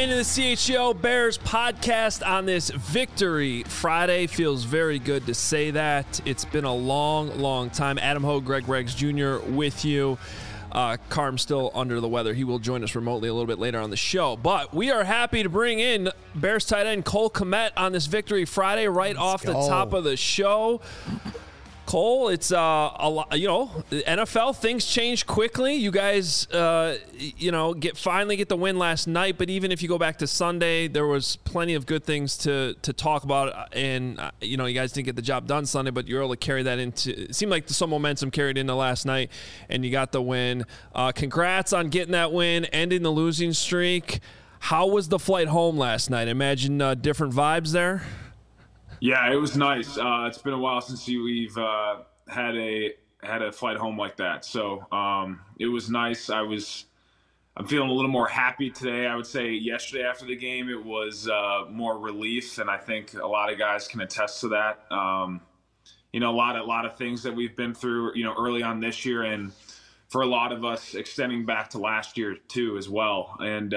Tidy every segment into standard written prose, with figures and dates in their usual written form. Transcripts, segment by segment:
into the CHGO Bears podcast on this Victory Friday. Feels very good to say that. It's been a long time. Adam Hogue, Greg Reggs Jr. with you. Carm's still under the weather. He will join us remotely a little bit later on the show. But we are happy to bring in Bears tight end Cole Kmet on this Victory Friday right off the top of the show. Cole, it's a lot, the NFL, things change quickly. You guys, finally get the win last night. But even if you go back to Sunday, there was plenty of good things to talk about. And, you guys didn't get the job done Sunday, but you were able to carry that into – it seemed like some momentum carried into last night, and you got the win. Congrats on getting that win, ending the losing streak. How was the flight home last night? Imagine different vibes there? Yeah, it was nice. It's been a while since we've had a flight home like that. So it was nice. I'm feeling a little more happy today. I would say yesterday after the game, it was more relief, and I think a lot of guys can attest to that. A lot of things that we've been through, early on this year, and for a lot of us extending back to last year too as well. And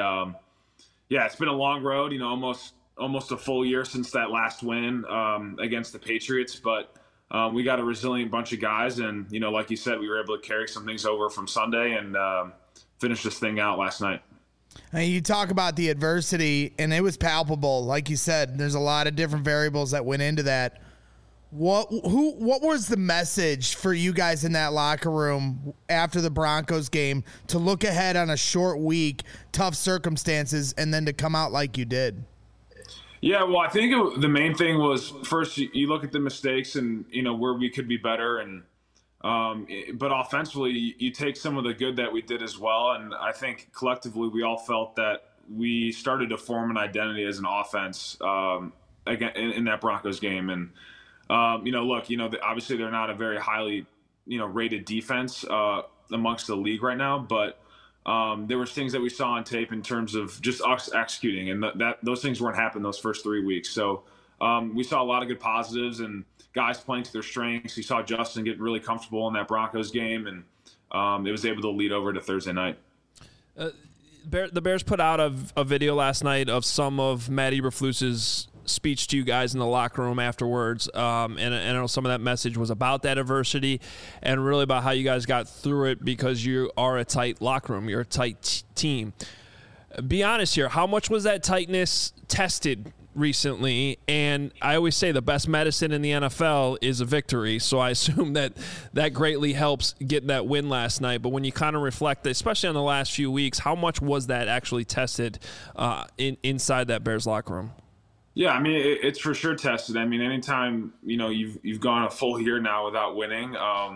it's been a long road. Almost a full year since that last win against the Patriots, but we got a resilient bunch of guys, and like you said, we were able to carry some things over from Sunday and finish this thing out last night. And you talk about the adversity, and it was palpable. Like you said, there's a lot of different variables that went into that. What was the message for you guys in that locker room after the Broncos game to look ahead on a short week, tough circumstances, and then to come out like you did? Yeah, well, I think the main thing was first you look at the mistakes and where we could be better, and but offensively you take some of the good that we did as well, and I think collectively we all felt that we started to form an identity as an offense again in that Broncos game, and obviously they're not a very highly rated defense amongst the league right now, but there was things that we saw on tape in terms of just us executing, and those things weren't happening those first 3 weeks. So we saw a lot of good positives and guys playing to their strengths. You saw Justin get really comfortable in that Broncos game, and it was able to lead over to Thursday night. The Bears put out a video last night of some of Matt Eberflus's speech to you guys in the locker room afterwards, and I know some of that message was about that adversity and really about how you guys got through it because you are a tight locker room, you're a tight team. Be honest here, how much was that tightness tested recently? And I always say the best medicine in the NFL is a victory, so I assume that greatly helps getting that win last night. But when you kind of reflect, especially on the last few weeks, how much was that actually tested inside that Bears locker room? Yeah, I mean, it's for sure tested. I mean, anytime, you've gone a full year now without winning,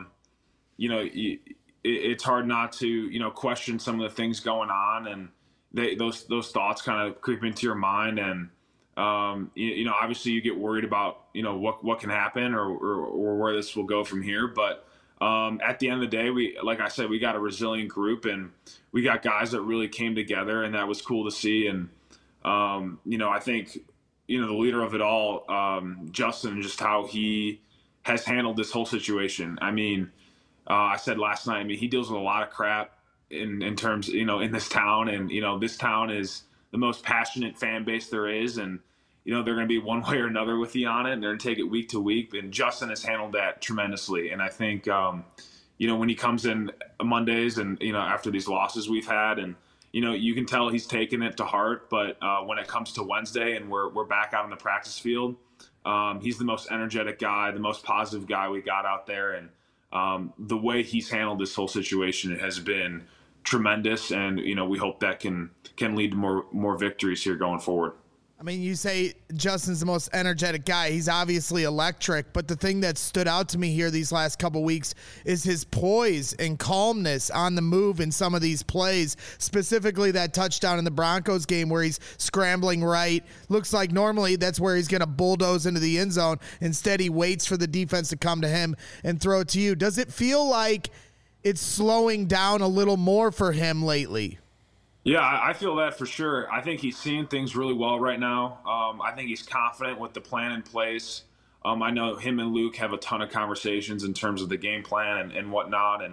it's hard not to, question some of the things going on, and those thoughts kind of creep into your mind. And, obviously you get worried about, what can happen or where this will go from here. But at the end of the day, like I said, we got a resilient group, and we got guys that really came together, and that was cool to see. And, I think, the leader of it all, Justin, just how he has handled this whole situation. I mean, I said last night, he deals with a lot of crap in terms, in this town. And, this town is the most passionate fan base there is. And, they're going to be one way or another with you on it, and they're going to take it week to week. And Justin has handled that tremendously. And I think, when he comes in Mondays and, after these losses we've had, and, you can tell he's taken it to heart, but when it comes to Wednesday and we're back out on the practice field, he's the most energetic guy, the most positive guy we got out there. And the way he's handled this whole situation has been tremendous. And, we hope that can lead to more victories here going forward. I mean, you say Justin's the most energetic guy. He's obviously electric, but the thing that stood out to me here these last couple weeks is his poise and calmness on the move in some of these plays, specifically that touchdown in the Broncos game where he's scrambling right. Looks like normally that's where he's going to bulldoze into the end zone. Instead, he waits for the defense to come to him and throw it to you. Does it feel like it's slowing down a little more for him lately? Yeah, I feel that for sure. I think he's seeing things really well right now. I think he's confident with the plan in place. I know him and Luke have a ton of conversations in terms of the game plan and whatnot. And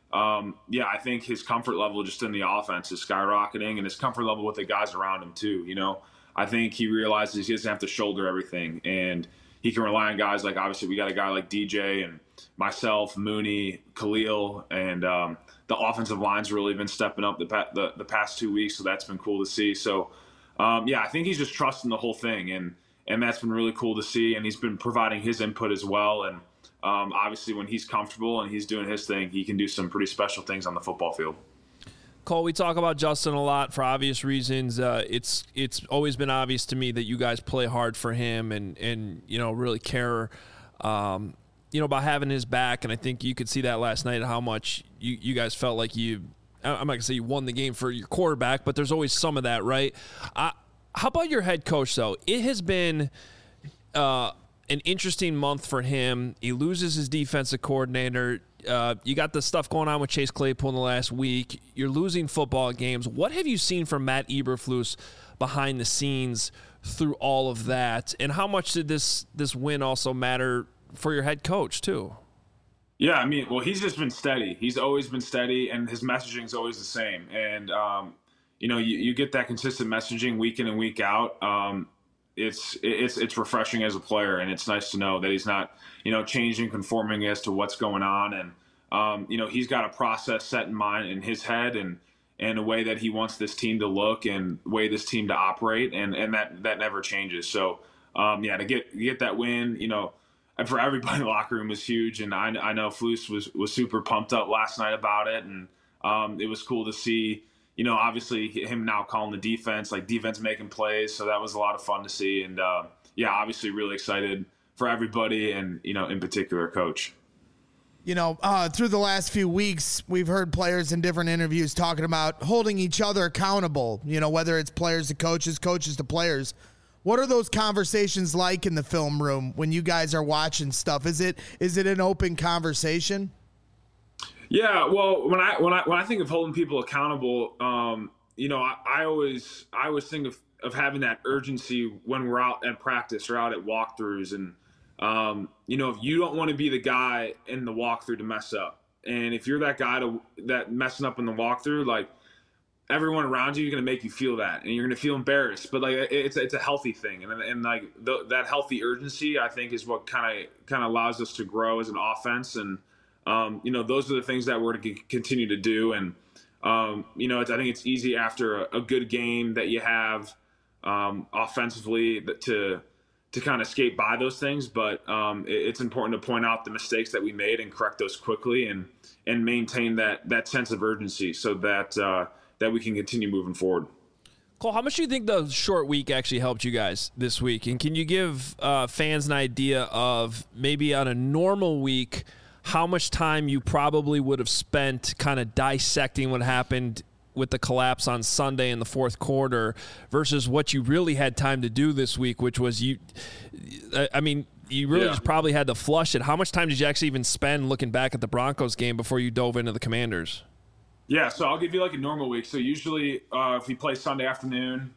yeah, I think his comfort level just in the offense is skyrocketing, and his comfort level with the guys around him too. I think he realizes he doesn't have to shoulder everything, and he can rely on guys like, obviously we got a guy like DJ and myself, Mooney, Khalil, and the offensive line's really been stepping up the past 2 weeks, so that's been cool to see. So yeah, I think he's just trusting the whole thing, and that's been really cool to see, and he's been providing his input as well. And obviously when he's comfortable and he's doing his thing, he can do some pretty special things on the football field. Cole, we talk about Justin a lot for obvious reasons. It's always been obvious to me that you guys play hard for him and really care about having his back. And I think you could see that last night, how much you guys felt like I'm not going to say you won the game for your quarterback, but there's always some of that, right? How about your head coach, though? It has been an interesting month for him. He loses his defensive coordinator. You got the stuff going on with Chase Claypool in the last week. You're losing football games. What have you seen from Matt Eberflus behind the scenes through all of that? And how much did this win also matter for your head coach, too? Yeah, I mean, well, he's just been steady. He's always been steady, and his messaging is always the same. And, you get that consistent messaging week in and week out. It's refreshing as a player, and it's nice to know that he's not, changing, conforming as to what's going on. And, he's got a process set in mind in his head and a way that he wants this team to look and way this team to operate. And that never changes. So, to get that win, and for everybody in the locker room was huge. And I know Flus was super pumped up last night about it. And it was cool to see, obviously him now calling the defense making plays. So that was a lot of fun to see. And obviously really excited for everybody and, in particular, Coach. Through the last few weeks, we've heard players in different interviews talking about holding each other accountable, whether it's players to coaches, coaches to players. What are those conversations like in the film room when you guys are watching stuff? Is it an open conversation? Yeah, well, when I think of holding people accountable, I always think of having that urgency when we're out at practice or out at walkthroughs, and if you don't want to be the guy in the walkthrough to mess up, and if you're that guy that messing up in the walkthrough, like, everyone around you is going to make you feel that, and you're going to feel embarrassed. But like, it's a healthy thing, and like that healthy urgency, I think, is what kind of allows us to grow as an offense. And those are the things that we're to continue to do. And I think it's easy after a good game that you have offensively to kind of skate by those things. But it's important to point out the mistakes that we made and correct those quickly and maintain that sense of urgency so that we can continue moving forward. Cole, how much do you think the short week actually helped you guys this week? And can you give fans an idea of maybe on a normal week, how much time you probably would have spent kind of dissecting what happened with the collapse on Sunday in the fourth quarter versus what you really had time to do this week, which was you really just probably had to flush it. How much time did you actually even spend looking back at the Broncos game before you dove into the Commanders? Yeah, so I'll give you like a normal week. So usually if we play Sunday afternoon,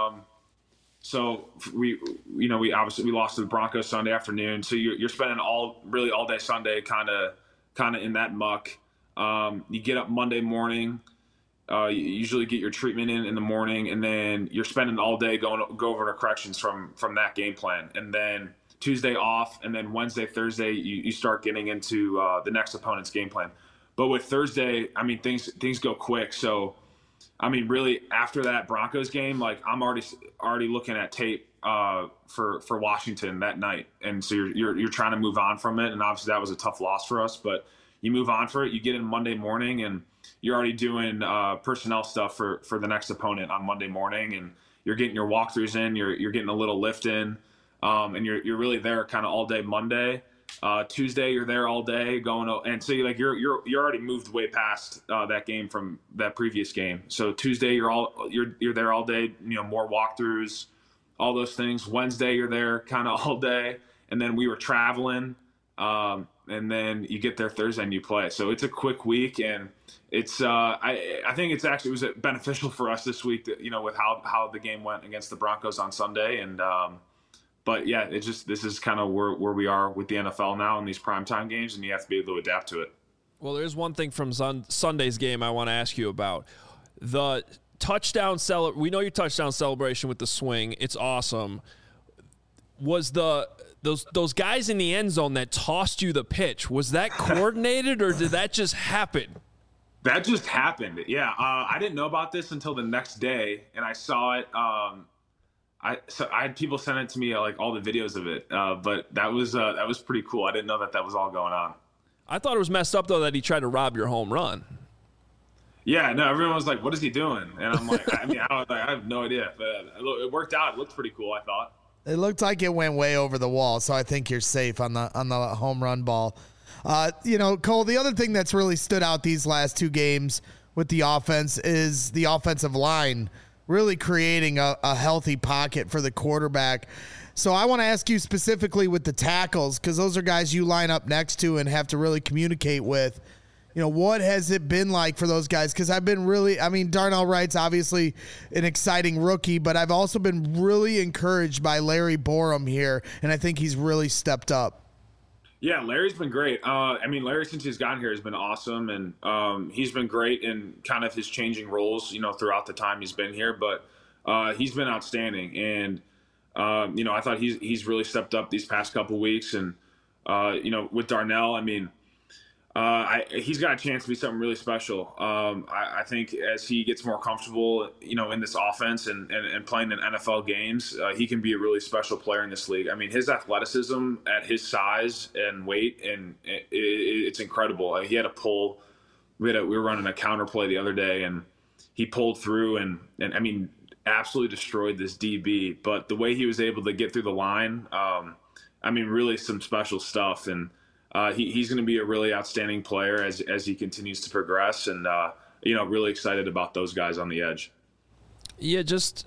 so we obviously lost to the Broncos Sunday afternoon. So you're spending all day Sunday kind of in that muck. You get up Monday morning. You usually get your treatment in the morning, and then you're spending all day go over the corrections from that game plan. And then Tuesday off, and then Wednesday, Thursday, you start getting into the next opponent's game plan. But with Thursday, I mean, things go quick. So, I mean, really after that Broncos game, like, I'm already looking at tape for Washington that night, and so you're trying to move on from it. And obviously that was a tough loss for us, but you move on for it. You get in Monday morning, and you're already doing personnel stuff for the next opponent on Monday morning, and you're getting your walkthroughs in. You're getting a little lift in, and you're really there kind of all day Monday. Tuesday you're there all day going, and so you're already moved way past that game from that previous game. So Tuesday you're there all day, more walkthroughs, all those things. Wednesday you're there kind of all day, and then we were traveling, and then you get there Thursday and you play. So it's a quick week, and it's I think it was beneficial for us this week that, with how the game went against the Broncos on Sunday. And but yeah, this is kind of where we are with the NFL now in these primetime games, and you have to be able to adapt to it. Well, there's one thing from Sunday's game I want to ask you about. The touchdown we know your touchdown celebration with the swing. It's awesome. Was those guys in the end zone that tossed you the pitch, was that coordinated or did that just happen? That just happened. Yeah. I didn't know about this until the next day, and I saw it. I had people send it to me, like all the videos of it. But that was pretty cool. I didn't know that was all going on. I thought it was messed up though that he tried to rob your home run. Yeah, no, everyone was like, "What is he doing?" And I'm like, I have no idea. But it worked out. It looked pretty cool, I thought. It looked like it went way over the wall, so I think you're safe on the home run ball. Cole, the other thing that's really stood out these last two games with the offense is the offensive line really creating a healthy pocket for the quarterback. So I want to ask you specifically with the tackles, because those are guys you line up next to and have to really communicate with. What has it been like for those guys? Because Darnell Wright's obviously an exciting rookie, but I've also been really encouraged by Larry Borom here, and I think he's really stepped up. Yeah, Larry's been great. Larry, since he's gotten here, has been awesome, and he's been great in kind of his changing roles, throughout the time he's been here. But he's been outstanding, and I thought he's really stepped up these past couple weeks. And with Darnell, he's got a chance to be something really special. I think as he gets more comfortable, in this offense and playing in NFL games, he can be a really special player in this league. His athleticism at his size and weight, and it's incredible. He had a pull. We were running a counter play the other day, and he pulled through and absolutely destroyed this DB. But the way he was able to get through the line, really some special stuff. And he's going to be a really outstanding player as he continues to progress, and really excited about those guys on the edge. Yeah,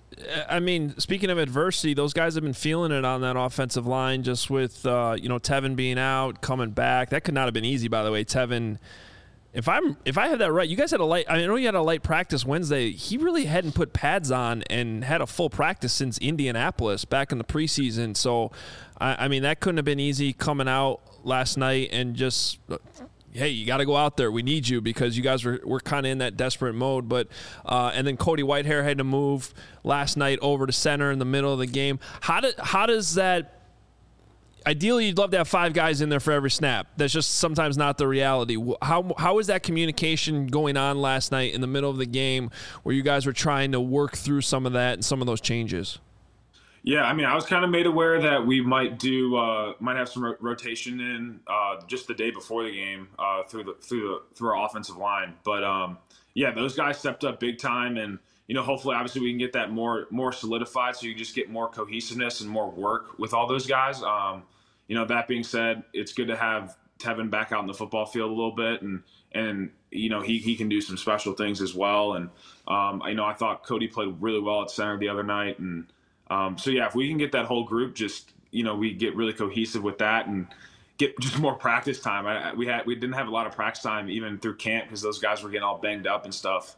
speaking of adversity, those guys have been feeling it on that offensive line, just with Tevin being out, coming back. That could not have been easy, by the way. Tevin, if I have that right, you guys had I know you had a light practice Wednesday. He really hadn't put pads on and had a full practice since Indianapolis back in the preseason. So, that couldn't have been easy coming out last night and just, hey, you got to go out there. We need you, because you guys were kind of in that desperate mode. But and then Cody Whitehair had to move last night over to center in the middle of the game. How does that? Ideally, you'd love to have 5 guys in there for every snap. That's just sometimes not the reality. How is that communication going on last night in the middle of the game, where you guys were trying to work through some of that and some of those changes? Yeah, I was kind of made aware that we might have some rotation in just the day before the game through our offensive line. But those guys stepped up big time, and hopefully, obviously, we can get that more solidified, so you just get more cohesiveness and more work with all those guys. That being said, it's good to have Tevin back out in the football field a little bit, and he can do some special things as well. And I thought Cody played really well at center the other night, and if we can get that whole group, just we get really cohesive with that and get just more practice time. We didn't have a lot of practice time even through camp, because those guys were getting all banged up and stuff.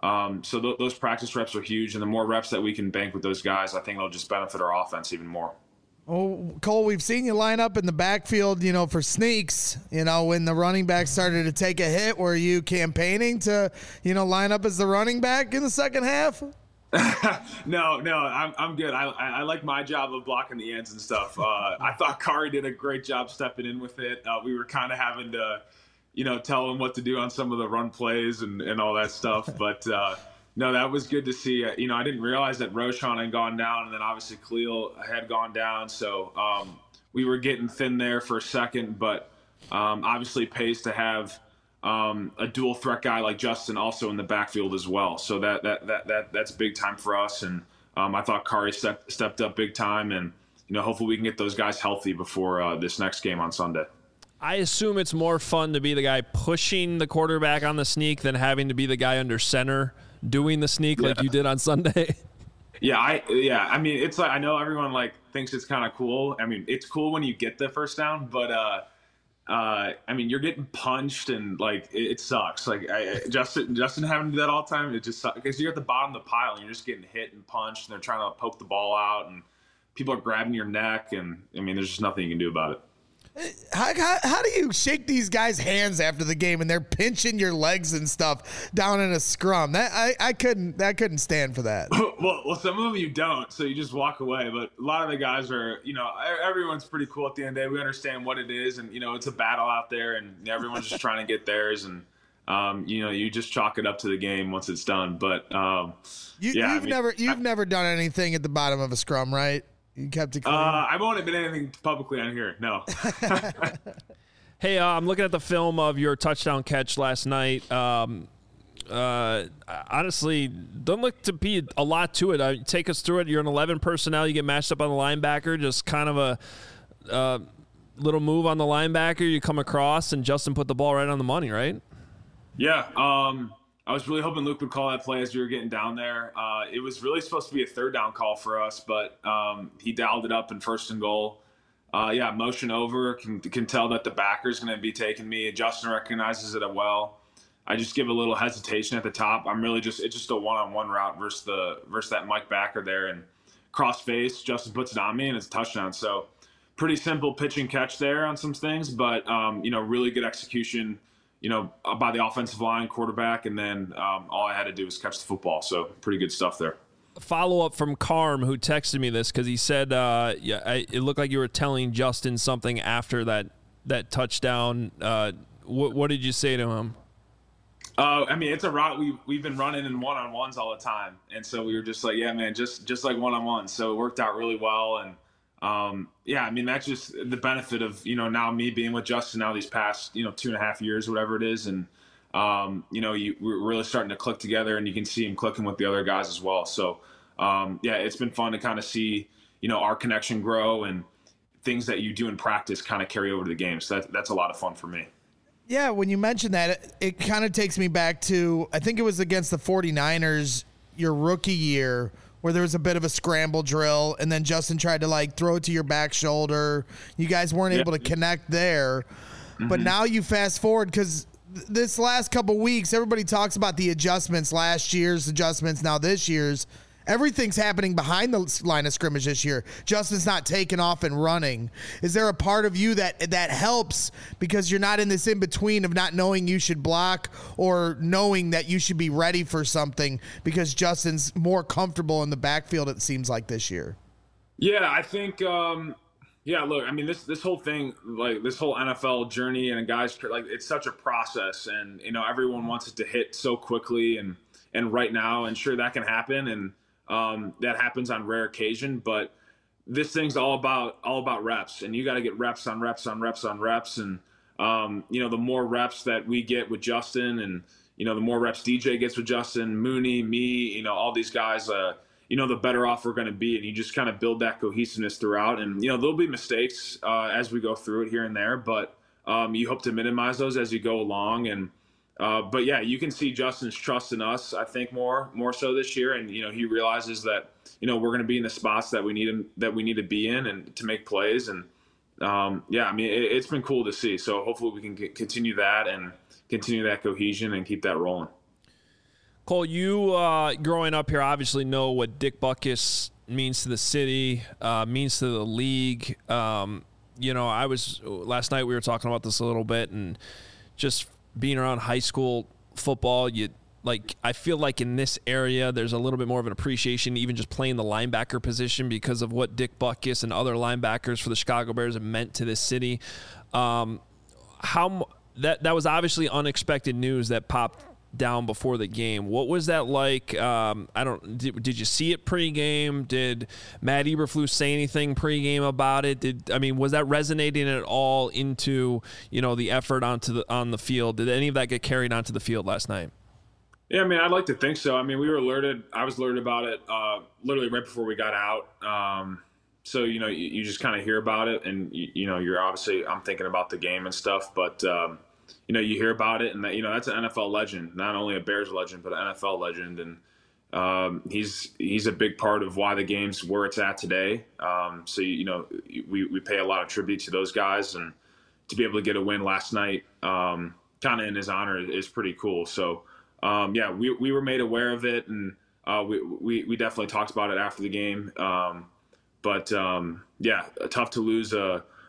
So those practice reps are huge, and the more reps that we can bank with those guys, I think it'll just benefit our offense even more. Oh, Cole, we've seen you line up in the backfield, for sneaks. When the running back started to take a hit, were you campaigning to, line up as the running back in the second half? No, I'm good. I like my job of blocking the ends and stuff. I thought Kari did a great job stepping in with it. We were kind of having to, tell him what to do on some of the run plays and all that stuff. But no, that was good to see. I didn't realize that Roschon had gone down, and then obviously Khalil had gone down. So we were getting thin there for a second, but obviously pays to have a dual threat guy like Justin also in the backfield as well. So that's big time for us. And I thought Kari stepped up big time, and hopefully we can get those guys healthy before this next game on Sunday. I assume it's more fun to be the guy pushing the quarterback on the sneak than having to be the guy under center doing the sneak like you did on Sunday. It's like, I know everyone thinks it's kind of cool. It's cool when you get the first down, but you're getting punched, and it sucks. Justin having to do that all the time, it just sucks, because you're at the bottom of the pile and you're just getting hit and punched, and they're trying to poke the ball out, and people are grabbing your neck, and there's just nothing you can do about it. How do you shake these guys' hands after the game and they're pinching your legs and stuff down in a scrum? That I couldn't stand for that. Well, some of them you don't, so you just walk away. But a lot of the guys are, everyone's pretty cool at the end of the day. We understand what it is, and it's a battle out there, and everyone's just trying to get theirs, and you just chalk it up to the game once it's done. But you've never done anything at the bottom of a scrum, right? You kept it clean? I won't admit anything publicly on here. No. Hey, I'm looking at the film of your touchdown catch last night. Honestly, doesn't look to be a lot to it. Take us through it. You're an 11 personnel. You get matched up on the linebacker. Just kind of a little move on the linebacker. You come across, and Justin put the ball right on the money, right? Yeah. I was really hoping Luke would call that play as we were getting down there. It was really supposed to be a third down call for us, but he dialed it up in 1st and goal. Motion over, can tell that the backer's going to be taking me. Justin recognizes it well. I just give a little hesitation at the top. It's just a one-on-one route versus that Mike backer there, and cross face. Justin puts it on me, and it's a touchdown. So pretty simple pitch and catch there on some things, but really good execution. By the offensive line, quarterback, and then all I had to do was catch the football. So pretty good stuff there. Follow-up from Carm, who texted me this because he said it looked like you were telling Justin something after that touchdown. What did you say to him? It's a route we've been running in one-on-ones all the time. And so we were just like, yeah, man, just like one-on-one. So it worked out really well. And that's just the benefit of, now me being with Justin now these past, 2.5 years, whatever it is. And, we're really starting to click together, and you can see him clicking with the other guys as well. So, it's been fun to kind of see, our connection grow, and things that you do in practice kind of carry over to the game. So that's a lot of fun for me. Yeah, when you mention that, it kind of takes me back to, I think it was against the 49ers, your rookie year, where there was a bit of a scramble drill, and then Justin tried to throw it to your back shoulder. You guys weren't able to connect there. Mm-hmm. But now you fast forward, because this last couple weeks, everybody talks about the adjustments, last year's adjustments, now this year's. Everything's happening behind the line of scrimmage this year. Justin's not taking off and running. Is there a part of you that helps because you're not in this in-between of not knowing you should block or knowing that you should be ready for something because Justin's more comfortable in the backfield, it seems like, this year? Yeah, I think look, this whole thing, this whole NFL journey and guys, it's such a process, and everyone wants it to hit so quickly and right now, and sure, that can happen, and that happens on rare occasion, but this thing's all about reps, and you got to get reps on reps on reps on reps. And, the more reps that we get with Justin, and, the more reps DJ gets with Justin, Mooney, me, all these guys, the better off we're going to be. And you just kind of build that cohesiveness throughout. And, there'll be mistakes as we go through it here and there, but you hope to minimize those as you go along. And, but yeah, you can see Justin's trust in us, I think, more so this year. And, he realizes that, we're going to be in the spots that we need to be in and to make plays. And, it's been cool to see. So hopefully we can continue that and continue that cohesion and keep that rolling. Cole, you growing up here obviously know what Dick Butkus means to the city, means to the league. Last night we were talking about this a little bit, and just being around high school football, I feel like in this area there's a little bit more of an appreciation, even just playing the linebacker position, because of what Dick Butkus and other linebackers for the Chicago Bears have meant to this city. That was obviously unexpected news that popped down before the game. What was that like? Did you see it pregame? Did Matt Eberflus say anything pregame about it? Was that resonating at all into the effort on the field? Did any of that get carried onto the field last night? Yeah, I'd like to think so. We were alerted. I was alerted about it literally right before we got out. So you just kind of hear about it, and you're obviously, I'm thinking about the game and stuff, but you hear about it, and that that's an NFL legend, not only a Bears legend, but an NFL legend, and he's a big part of why the game's where it's at today. So we pay a lot of tribute to those guys, and to be able to get a win last night, kind of in his honor, is pretty cool. So we were made aware of it, and we definitely talked about it after the game. Tough to lose a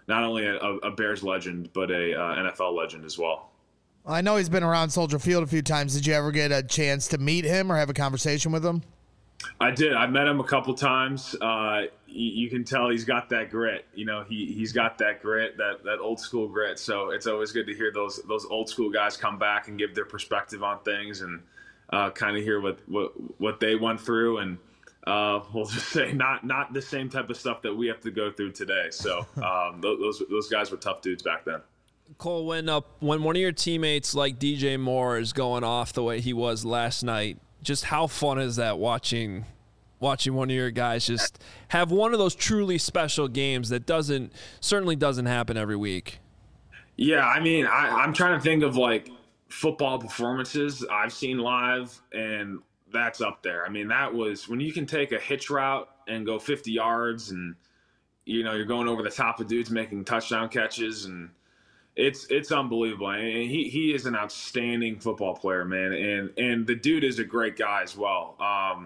not only a Bears legend, but a NFL legend as well. I know he's been around Soldier Field a few times. Did you ever get a chance to meet him or have a conversation with him? I did. I met him a couple times. You can tell he's got that grit. He's got that grit, that old school grit. So it's always good to hear those old school guys come back and give their perspective on things and kind of hear what they went through. And we'll just say not the same type of stuff that we have to go through today. So those guys were tough dudes back then. Cole, when one of your teammates like DJ Moore is going off the way he was last night, just how fun is that watching one of your guys just have one of those truly special games that certainly doesn't happen every week? Yeah, I mean, I'm trying to think of like football performances I've seen live, and that's up there. I mean, that was when you can take a hitch route and go 50 yards and, you're going over the top of dudes making touchdown catches, and it's unbelievable. And he is an outstanding football player, man. And the dude is a great guy as well.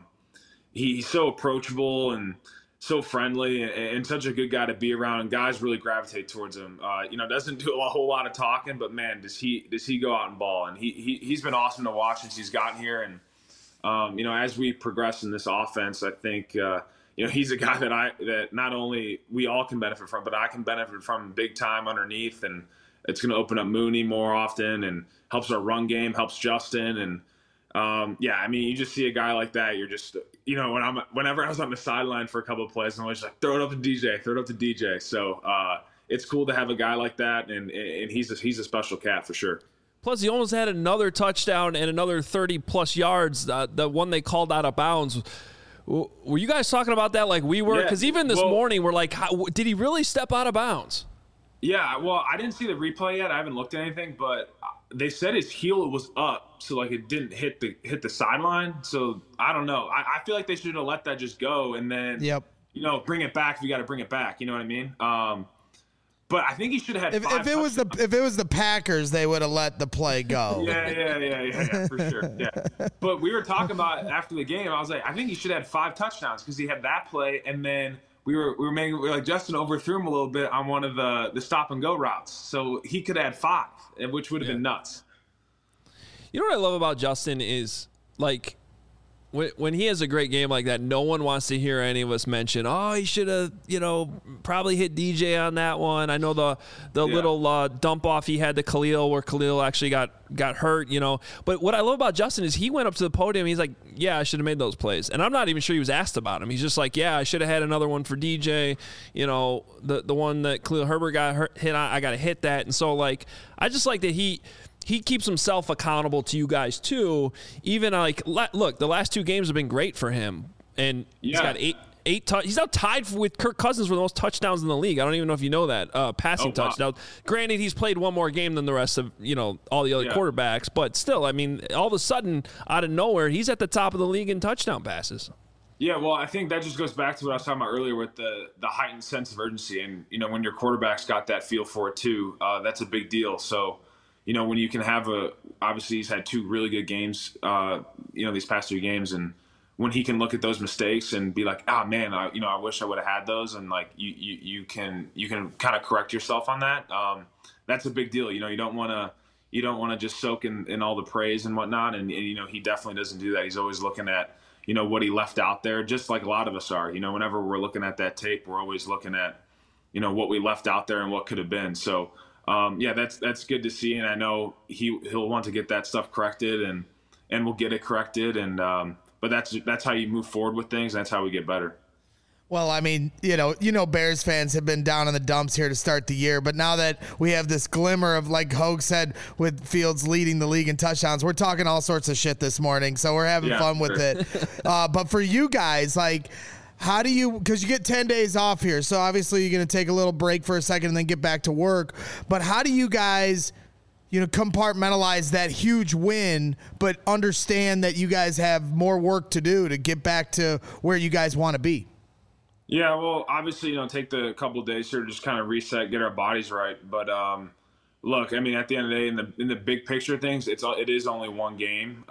He's so approachable and so friendly and such a good guy to be around. And guys really gravitate towards him. Doesn't do a whole lot of talking, but man, does he go out and ball. And he's been awesome to watch since he's gotten here. And, as we progress in this offense, I think, he's a guy that not only we all can benefit from, but I can benefit from big time underneath. And it's going to open up Mooney more often and helps our run game, helps Justin. And you just see a guy like that. You're just, whenever I was on the sideline for a couple of plays, I'm always like, throw it up to DJ. So it's cool to have a guy like that. And he's a special cat for sure. Plus, he almost had another touchdown and another 30-plus yards, the one they called out of bounds. Were you guys talking about that like we were? Because even this morning, we're like, did he really step out of bounds? Yeah, well, I didn't see the replay yet. I haven't looked at anything, but they said his heel was up, so like it didn't hit the sideline. So I don't know. I feel like they should have let that just go and then bring it back if you got to bring it back. You know what I mean? But I think he should have had if it was the Packers, they would have let the play go. Yeah, for sure. Yeah. But we were talking about after the game. I was like, I think he should have had 5 touchdowns because he had that play, and then we were like Justin overthrew him a little bit on one of the stop and go routes, so he could add 5, which would have been nuts. You know what I love about Justin is like when he has a great game like that, no one wants to hear any of us mention, oh, he should have, probably hit DJ on that one. I know the little dump off he had to Khalil where Khalil actually got hurt, But what I love about Justin is he went up to the podium. He's like, yeah, I should have made those plays. And I'm not even sure he was asked about him. He's just like, yeah, I should have had another one for DJ. The one that Khalil Herbert got hit on, I got to hit that. And so, like, I just like that he keeps himself accountable to you guys too. Even like, look, the last 2 games have been great for him, and he's got eight. He's now tied with Kirk Cousins for the most touchdowns in the league. I don't even know if you know that passing touchdowns. Granted, he's played one more game than the rest of all the other quarterbacks, but still, I mean, all of a sudden, out of nowhere, he's at the top of the league in touchdown passes. Yeah, well, I think that just goes back to what I was talking about earlier with the heightened sense of urgency, and when your quarterback's got that feel for it too, that's a big deal. So. When you can have obviously he's had 2 really good games, these past 2 games. And when he can look at those mistakes and be like, oh man, I wish I would have had those. And like, you can kind of correct yourself on that. That's a big deal. You don't want to just soak in all the praise and whatnot. And he definitely doesn't do that. He's always looking at, what he left out there, just like a lot of us are. Whenever we're looking at that tape, we're always looking at, what we left out there and what could have been. So, that's good to see, and I know he'll want to get that stuff corrected, and we'll get it corrected, and but that's how you move forward with things. That's how we get better. Well, I mean, Bears fans have been down in the dumps here to start the year, but now that we have this glimmer of, like Hogue said, with Fields leading the league in touchdowns, we're talking all sorts of shit this morning, so we're having fun with it. But for you guys, like, how do you, because you get 10 days off here, so obviously you're going to take a little break for a second and then get back to work, but how do you guys, compartmentalize that huge win, but understand that you guys have more work to do to get back to where you guys want to be? Yeah, well, obviously, take the couple of days here to just kind of reset, get our bodies right, but look, I mean, at the end of the day, in the big picture of things, it is only one game,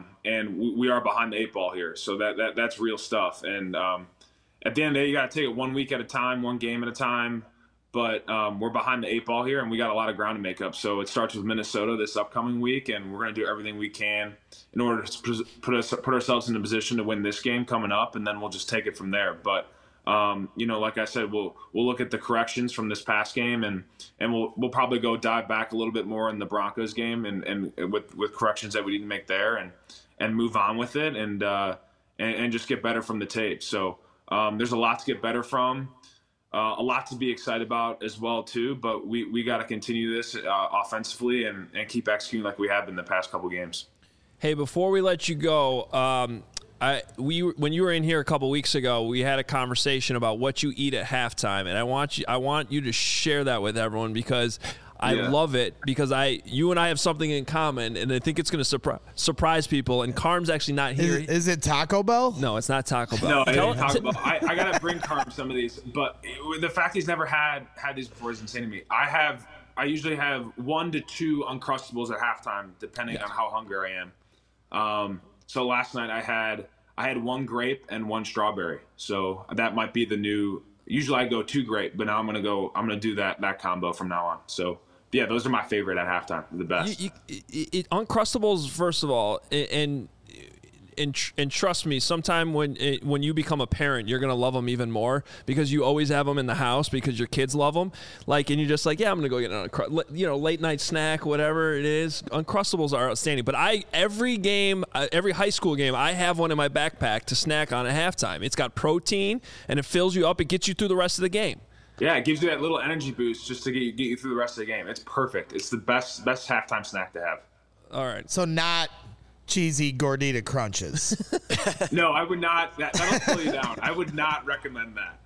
and we are behind the 8 ball here, so that's real stuff, and at the end of the day, you got to take it 1 week at a time, 1 game at a time. but we're behind the 8 ball here, and we got a lot of ground to make up. So it starts with Minnesota this upcoming week, and we're going to do everything we can in order to put ourselves in a position to win this game coming up, and then we'll just take it from there. But like I said, we'll look at the corrections from this past game, and we'll probably go dive back a little bit more in the Broncos game, and with corrections that we need to make there, and move on with it, and just get better from the tape. So there's a lot to get better from. A lot to be excited about as well too, but we got to continue this offensively and keep executing like we have in the past couple games. Hey, before we let you go, when you were in here a couple weeks ago, we had a conversation about what you eat at halftime, and I want you to share that with everyone because I love it, because you and I have something in common, and I think it's going to surprise people. And Carm's actually not here. Is it Taco Bell? No, it's not Taco Bell. No, it ain't Taco Bell. I got to bring Carm some of these, but the fact he's never had these before is insane to me. I usually have 1 to 2 Uncrustables at halftime, depending on how hungry I am. So last night I had 1 grape and 1 strawberry. So that might be the new. Usually I go 2 grape, but now I'm gonna do that combo from now on. So yeah, those are my favorite at halftime. The best. Uncrustables, first of all, and trust me, sometime when you become a parent, you're gonna love them even more because you always have them in the house because your kids love them. Like, and you're just like, yeah, I'm gonna go get an late night snack, whatever it is. Uncrustables are outstanding. But every high school game, I have one in my backpack to snack on at halftime. It's got protein and it fills you up. It gets you through the rest of the game. Yeah, it gives you that little energy boost just to get you through the rest of the game. It's perfect. It's the best halftime snack to have. All right. So not cheesy Gordita Crunches. No, I would not. That'll slow you down. I would not recommend that.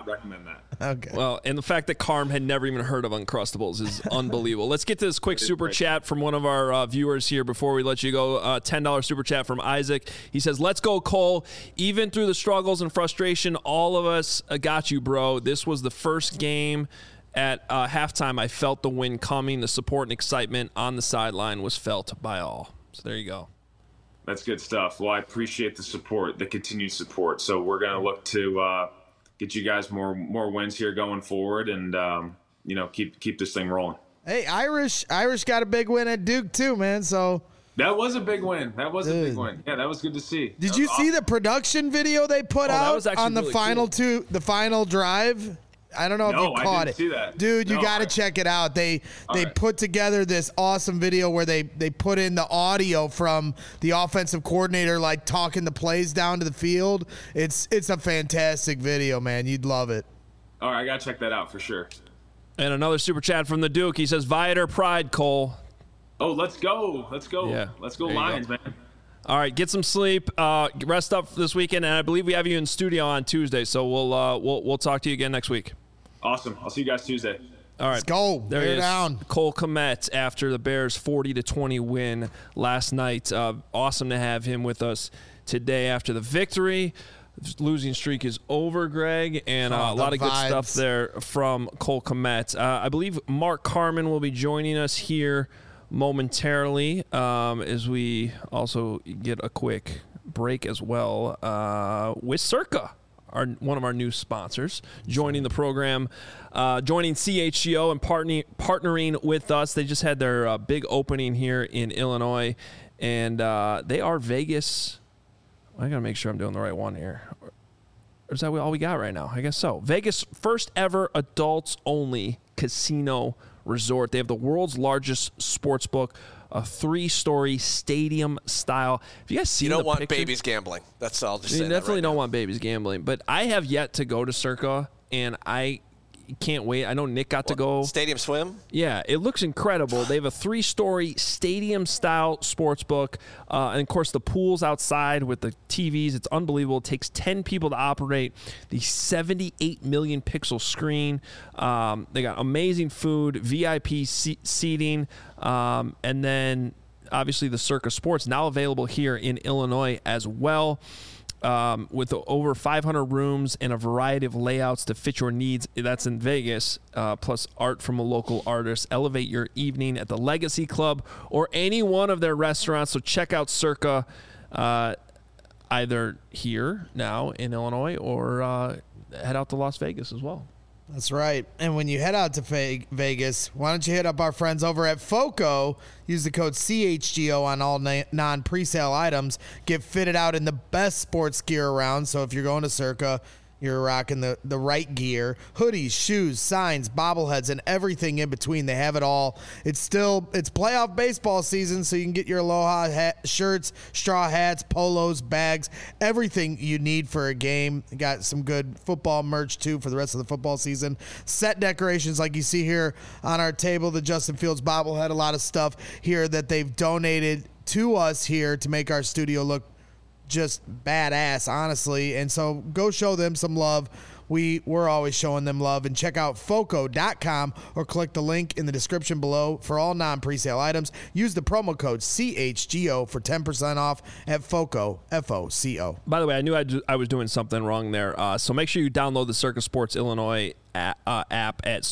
Okay. Well, and the fact that Carm had never even heard of Uncrustables is unbelievable. Let's get to this quick super chat from one of our viewers here before we let you go. $10 super chat from Isaac. He says, "Let's go, Cole. Even through the struggles and frustration, all of us got you, bro. This was the first game at halftime. I felt the win coming. The support and excitement on the sideline was felt by all." So there you go. That's good stuff. Well, I appreciate the support, the continued support. So we're going to look to get you guys more wins here going forward, and keep this thing rolling. Hey, Irish got a big win at Duke too, man. So that was a big win. Yeah, that was good to see. Did you see the production video they put out on the really final cool. the final drive? I don't know if you caught it. See that. Dude, you got to check it out. They put together this awesome video where they put in the audio from the offensive coordinator, like talking the plays down to the field. It's a fantastic video, man. You'd love it. All right, I got to check that out for sure. And another super chat from the Duke. He says, Viator Pride, Cole. Oh, let's go. Yeah. Let's go Lions, man. All right, get some sleep, rest up this weekend, and I believe we have you in studio on Tuesday, so we'll talk to you again next week. Awesome. I'll see you guys Tuesday. All right. Let's go. There he is. Down. Cole Kmet after the Bears' 40-20 win last night. Awesome to have him with us today after the victory. The losing streak is over, Greg, and a lot of good stuff there from Cole Kmet. I believe Mark Carman will be joining us here momentarily as we also get a quick break as well with Circa. One of our new sponsors, joining the program, joining CHGO and partnering with us. They just had their big opening here in Illinois, and they are Vegas. I got to make sure I'm doing the right one here. Or is that all we got right now? I guess so. Vegas' first ever adults-only casino resort. They have the world's largest sports book, a 3-story stadium style. Have you guys seen the picture? You don't want babies gambling. That's all. You definitely don't want babies gambling. But I have yet to go to Circa, and I can't wait. I know Nick got to go. Stadium Swim? Yeah, it looks incredible. They have a 3-story stadium-style sports book. And, of course, the pool's outside with the TVs. It's unbelievable. It takes 10 people to operate the 78 million pixel screen. They got amazing food, VIP seating, and then, obviously, the Circa Sports now available here in Illinois as well. With over 500 rooms and a variety of layouts to fit your needs. That's in Vegas, plus art from a local artist. Elevate your evening at the Legacy Club or any one of their restaurants. So check out Circa either here now in Illinois or head out to Las Vegas as well. That's right. And when you head out to Vegas, why don't you hit up our friends over at FOCO? Use the code CHGO on all non-presale items. Get fitted out in the best sports gear around. So if you're going to Circa, you're rocking the right gear. Hoodies, shoes, signs, bobbleheads, and everything in between. They have it all. It's playoff baseball season, so you can get your Aloha shirts, straw hats, polos, bags, everything you need for a game. Got some good football merch, too, for the rest of the football season. Set decorations like you see here on our table, the Justin Fields bobblehead, a lot of stuff here that they've donated to us here to make our studio look just badass, honestly. And so go show them some love. We're always showing them love. And check out FOCO.com or click the link in the description below for all non-presale items. Use the promo code CHGO for 10% off at FOCO, FOCO. By the way, I knew I was doing something wrong there. So make sure you download the Circa Sports Illinois app at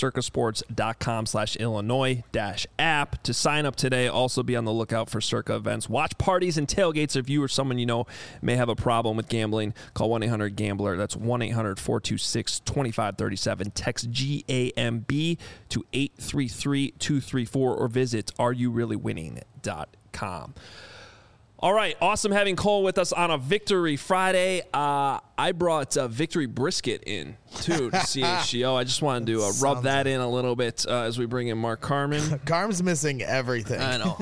circasports.com/Illinois-app to sign up today. Also be on the lookout for Circa events. Watch parties and tailgates. If you or someone you know may have a problem with gambling, call 1-800-GAMBLER. That's 1-800-426-2537. Text GAMB to 833-234 or visit areyoureallywinning.com. All right, awesome having Cole with us on a Victory Friday. I brought Victory Brisket in, too, to CHGO. I just wanted to rub that in a little bit as we bring in Mark Carman. Carm's missing everything. I know.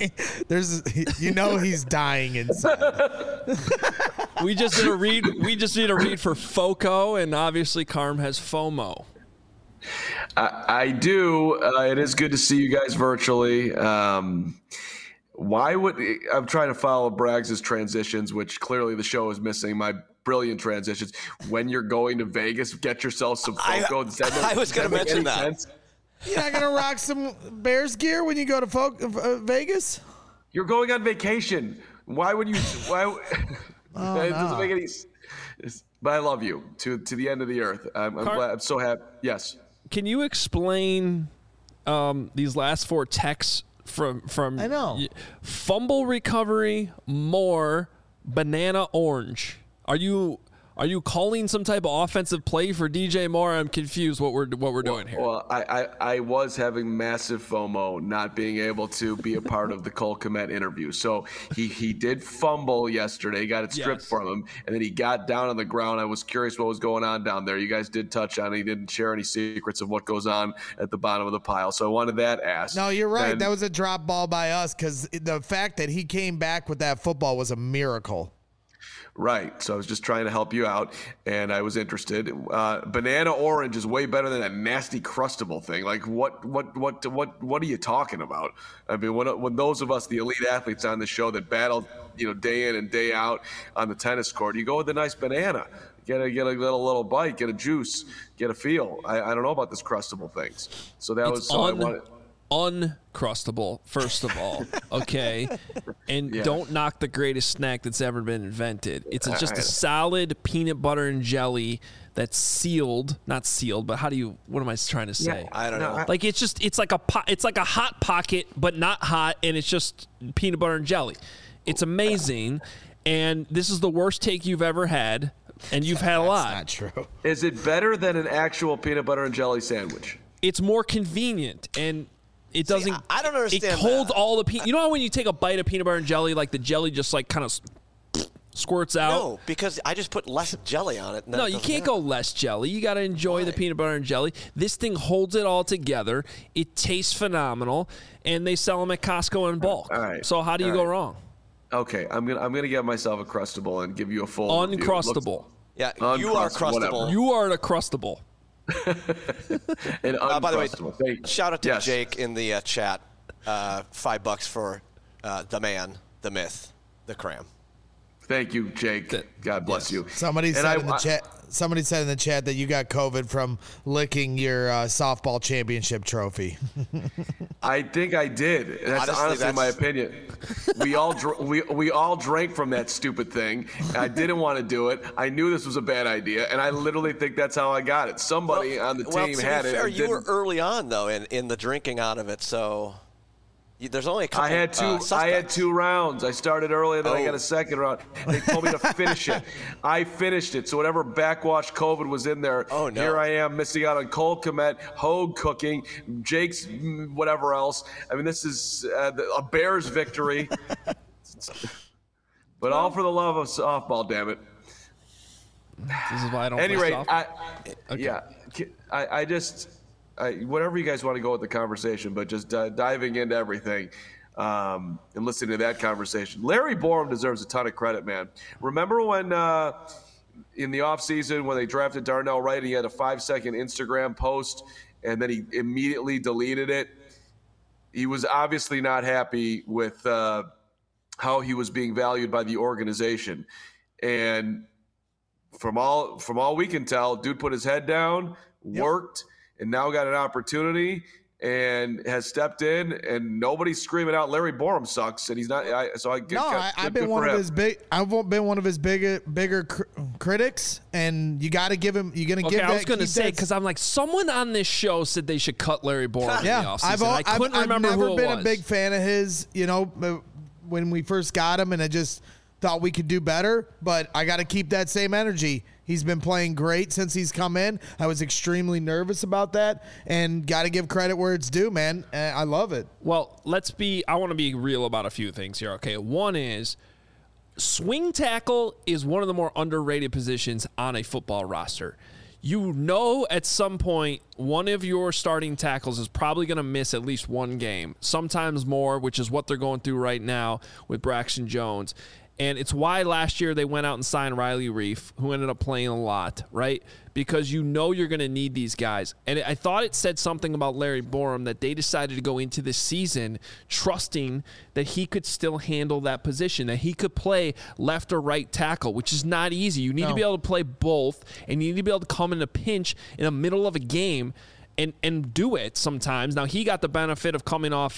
He's dying inside. We just did a read for FOCO, and obviously Carm has FOMO. I do. It is good to see you guys virtually. I'm trying to follow Braggs' transitions, which clearly the show is missing. My brilliant transitions. When you're going to Vegas, get yourself some FOCO. I was going to mention that. Sense? You're not going to rock some Bears gear when you go to Vegas? You're going on vacation. Why would you? Why? It doesn't make any sense. But I love you to the end of the earth. I'm glad. I'm so happy. Yes. Can you explain these last four texts? From I know. Fumble recovery, more banana orange. Are you calling some type of offensive play for DJ Moore? I'm confused what we're doing here. Well, I was having massive FOMO not being able to be a part of the Cole Kmet interview. So he did fumble yesterday, got it stripped from him, and then he got down on the ground. I was curious what was going on down there. You guys did touch on it. He didn't share any secrets of what goes on at the bottom of the pile. So I wanted that asked. No, you're right. That was a drop ball by us because the fact that he came back with that football was a miracle. Right. So I was just trying to help you out, and I was interested. Banana orange is way better than that nasty crustable thing. Like, what are you talking about? I mean, when those of us, the elite athletes on the show that battle, day in and day out on the tennis court, you go with a nice banana. Get a little bite, get a juice, get a feel. I don't know about this crustable things. So that was so I wanted. Uncrustable, first of all, okay? And don't knock the greatest snack that's ever been invented. It's just a solid peanut butter and jelly that's sealed, not sealed, but what am I trying to say? Yeah, I don't know. Like it's like a hot pocket, but not hot, and it's just peanut butter and jelly. It's amazing, and this is the worst take you've ever had, and you've had a lot. That's not true. Is it better than an actual peanut butter and jelly sandwich? It's more convenient, and it doesn't. I don't understand. It holds all the peanut. You know how when you take a bite of peanut butter and jelly, like the jelly just like kind of squirts out? No, because I just put less jelly on it. No, you can't go less jelly. You got to enjoy the peanut butter and jelly. This thing holds it all together. It tastes phenomenal, and they sell them at Costco in bulk. All right. So how do you go wrong? Okay, I'm gonna get myself a crustable and give you a full Uncrustable. Yeah, you are crustable. Whatever. You are a crustable. And by the way, shout out to Jake in the chat. $5 for the man, the myth, the cram. Thank you, Jake. God bless you. Somebody said in the chat that you got COVID from licking your softball championship trophy. I think I did. That's honestly my opinion. We all drank from that stupid thing. I didn't want to do it. I knew this was a bad idea, and I literally think that's how I got it. Somebody on the team had it. You were early on though in the drinking out of it, so. There's only a couple. I had 2 rounds. I started early, and then I got a second round. They told me to finish it. I finished it. So whatever backwash COVID was in there, here I am missing out on Cole Kmet, Hogue cooking, Jake's whatever else. I mean, this is a Bears victory. But all for the love of softball, damn it. This is why I don't anyway, play softball. I just whatever you guys want to go with the conversation, but just diving into everything and listening to that conversation. Larry Borom deserves a ton of credit, man. Remember when in the offseason when they drafted Darnell Wright, he had a 5-second Instagram post, and then he immediately deleted it? He was obviously not happy with how he was being valued by the organization. And from all we can tell, dude put his head down, worked, and now got an opportunity and has stepped in, and nobody's screaming out Larry Borom sucks, and he's not. I've been one of his bigger critics, and you got to give him. You're gonna give. I was gonna say, because I'm like, someone on this show said they should cut Larry Borom in the offseason. I've never been a big fan of his. You know, when we first got him, and I just thought we could do better, but I got to keep that same energy. He's been playing great since he's come in. I was extremely nervous about that, and got to give credit where it's due, man. I love it. Well, I want to be real about a few things here, okay? One is swing tackle is one of the more underrated positions on a football roster. You know, at some point, one of your starting tackles is probably going to miss at least one game, sometimes more, which is what they're going through right now with Braxton Jones. And it's why last year they went out and signed Riley Reif, who ended up playing a lot, right? Because you know you're going to need these guys. And I thought it said something about Larry Borom that they decided to go into this season trusting that he could still handle that position, that he could play left or right tackle, which is not easy. You need to be able to play both, and you need to be able to come in a pinch in the middle of a game and do it sometimes. Now, he got the benefit of coming off,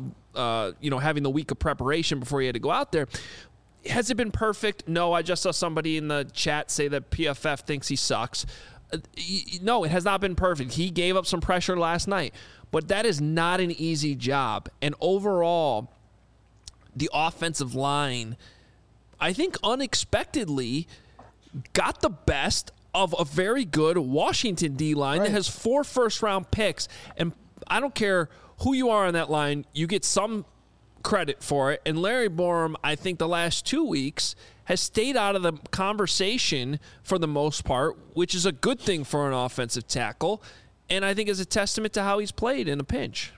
having the week of preparation before he had to go out there. Has it been perfect? No, I just saw somebody in the chat say that PFF thinks he sucks. No, it has not been perfect. He gave up some pressure last night, but that is not an easy job. And overall, the offensive line, I think unexpectedly, got the best of a very good Washington D-line that has 4 first-round picks. And I don't care who you are on that line, you get some credit for it. And Larry Borom, I think the last 2 weeks, has stayed out of the conversation for the most part, which is a good thing for an offensive tackle, and I think is a testament to how he's played in a pinch.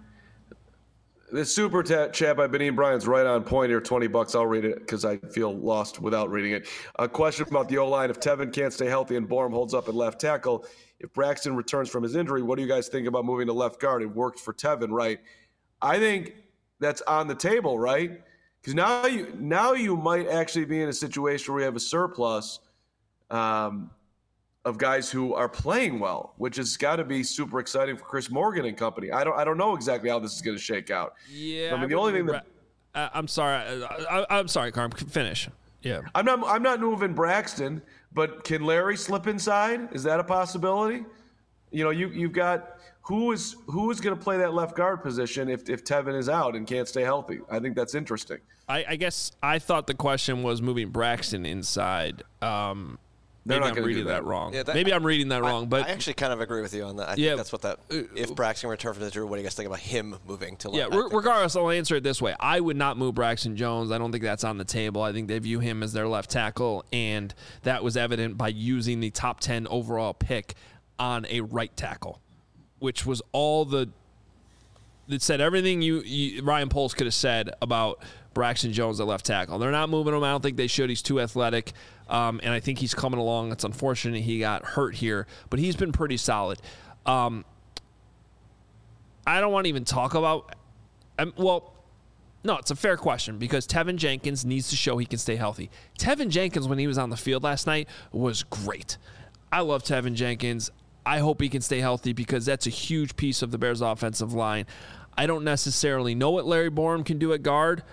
The super chat by Benine Bryant's right on point here. $20. I'll read it because I feel lost without reading it. A question about the O-line. If Tevin can't stay healthy and Borom holds up at left tackle, if Braxton returns from his injury, what do you guys think about moving to left guard? It worked for Tevin, right? I think that's on the table, right? Because now you might actually be in a situation where you have a surplus of guys who are playing well, which has got to be super exciting for Chris Morgan and company. I don't know exactly how this is going to shake out. Yeah, I mean, the only thing that I'm sorry, Carm. Finish. Yeah, I'm not moving Braxton, but can Larry slip inside? Is that a possibility? You know, you've got. Who is going to play that left guard position if Tevin is out and can't stay healthy? I think that's interesting. I guess I thought the question was moving Braxton inside. Maybe I'm reading that wrong. Yeah, maybe I'm reading that wrong. But I actually kind of agree with you on that. I think that's what that. If Braxton returned from injury, what do you guys think about him moving to left? Yeah, regardless, I'll answer it this way. I would not move Braxton Jones. I don't think that's on the table. I think they view him as their left tackle, and that was evident by using the top 10 overall pick on a right tackle, which was it said everything Ryan Poles could have said about Braxton Jones at left tackle. They're not moving him. I don't think they should. He's too athletic, and I think he's coming along. It's unfortunate he got hurt here, but he's been pretty solid. I don't want to even talk about no, it's a fair question because Tevin Jenkins needs to show he can stay healthy. Tevin Jenkins, when he was on the field last night, was great. I love Tevin Jenkins. I hope he can stay healthy because that's a huge piece of the Bears' offensive line. I don't necessarily know what Larry Borom can do at guard.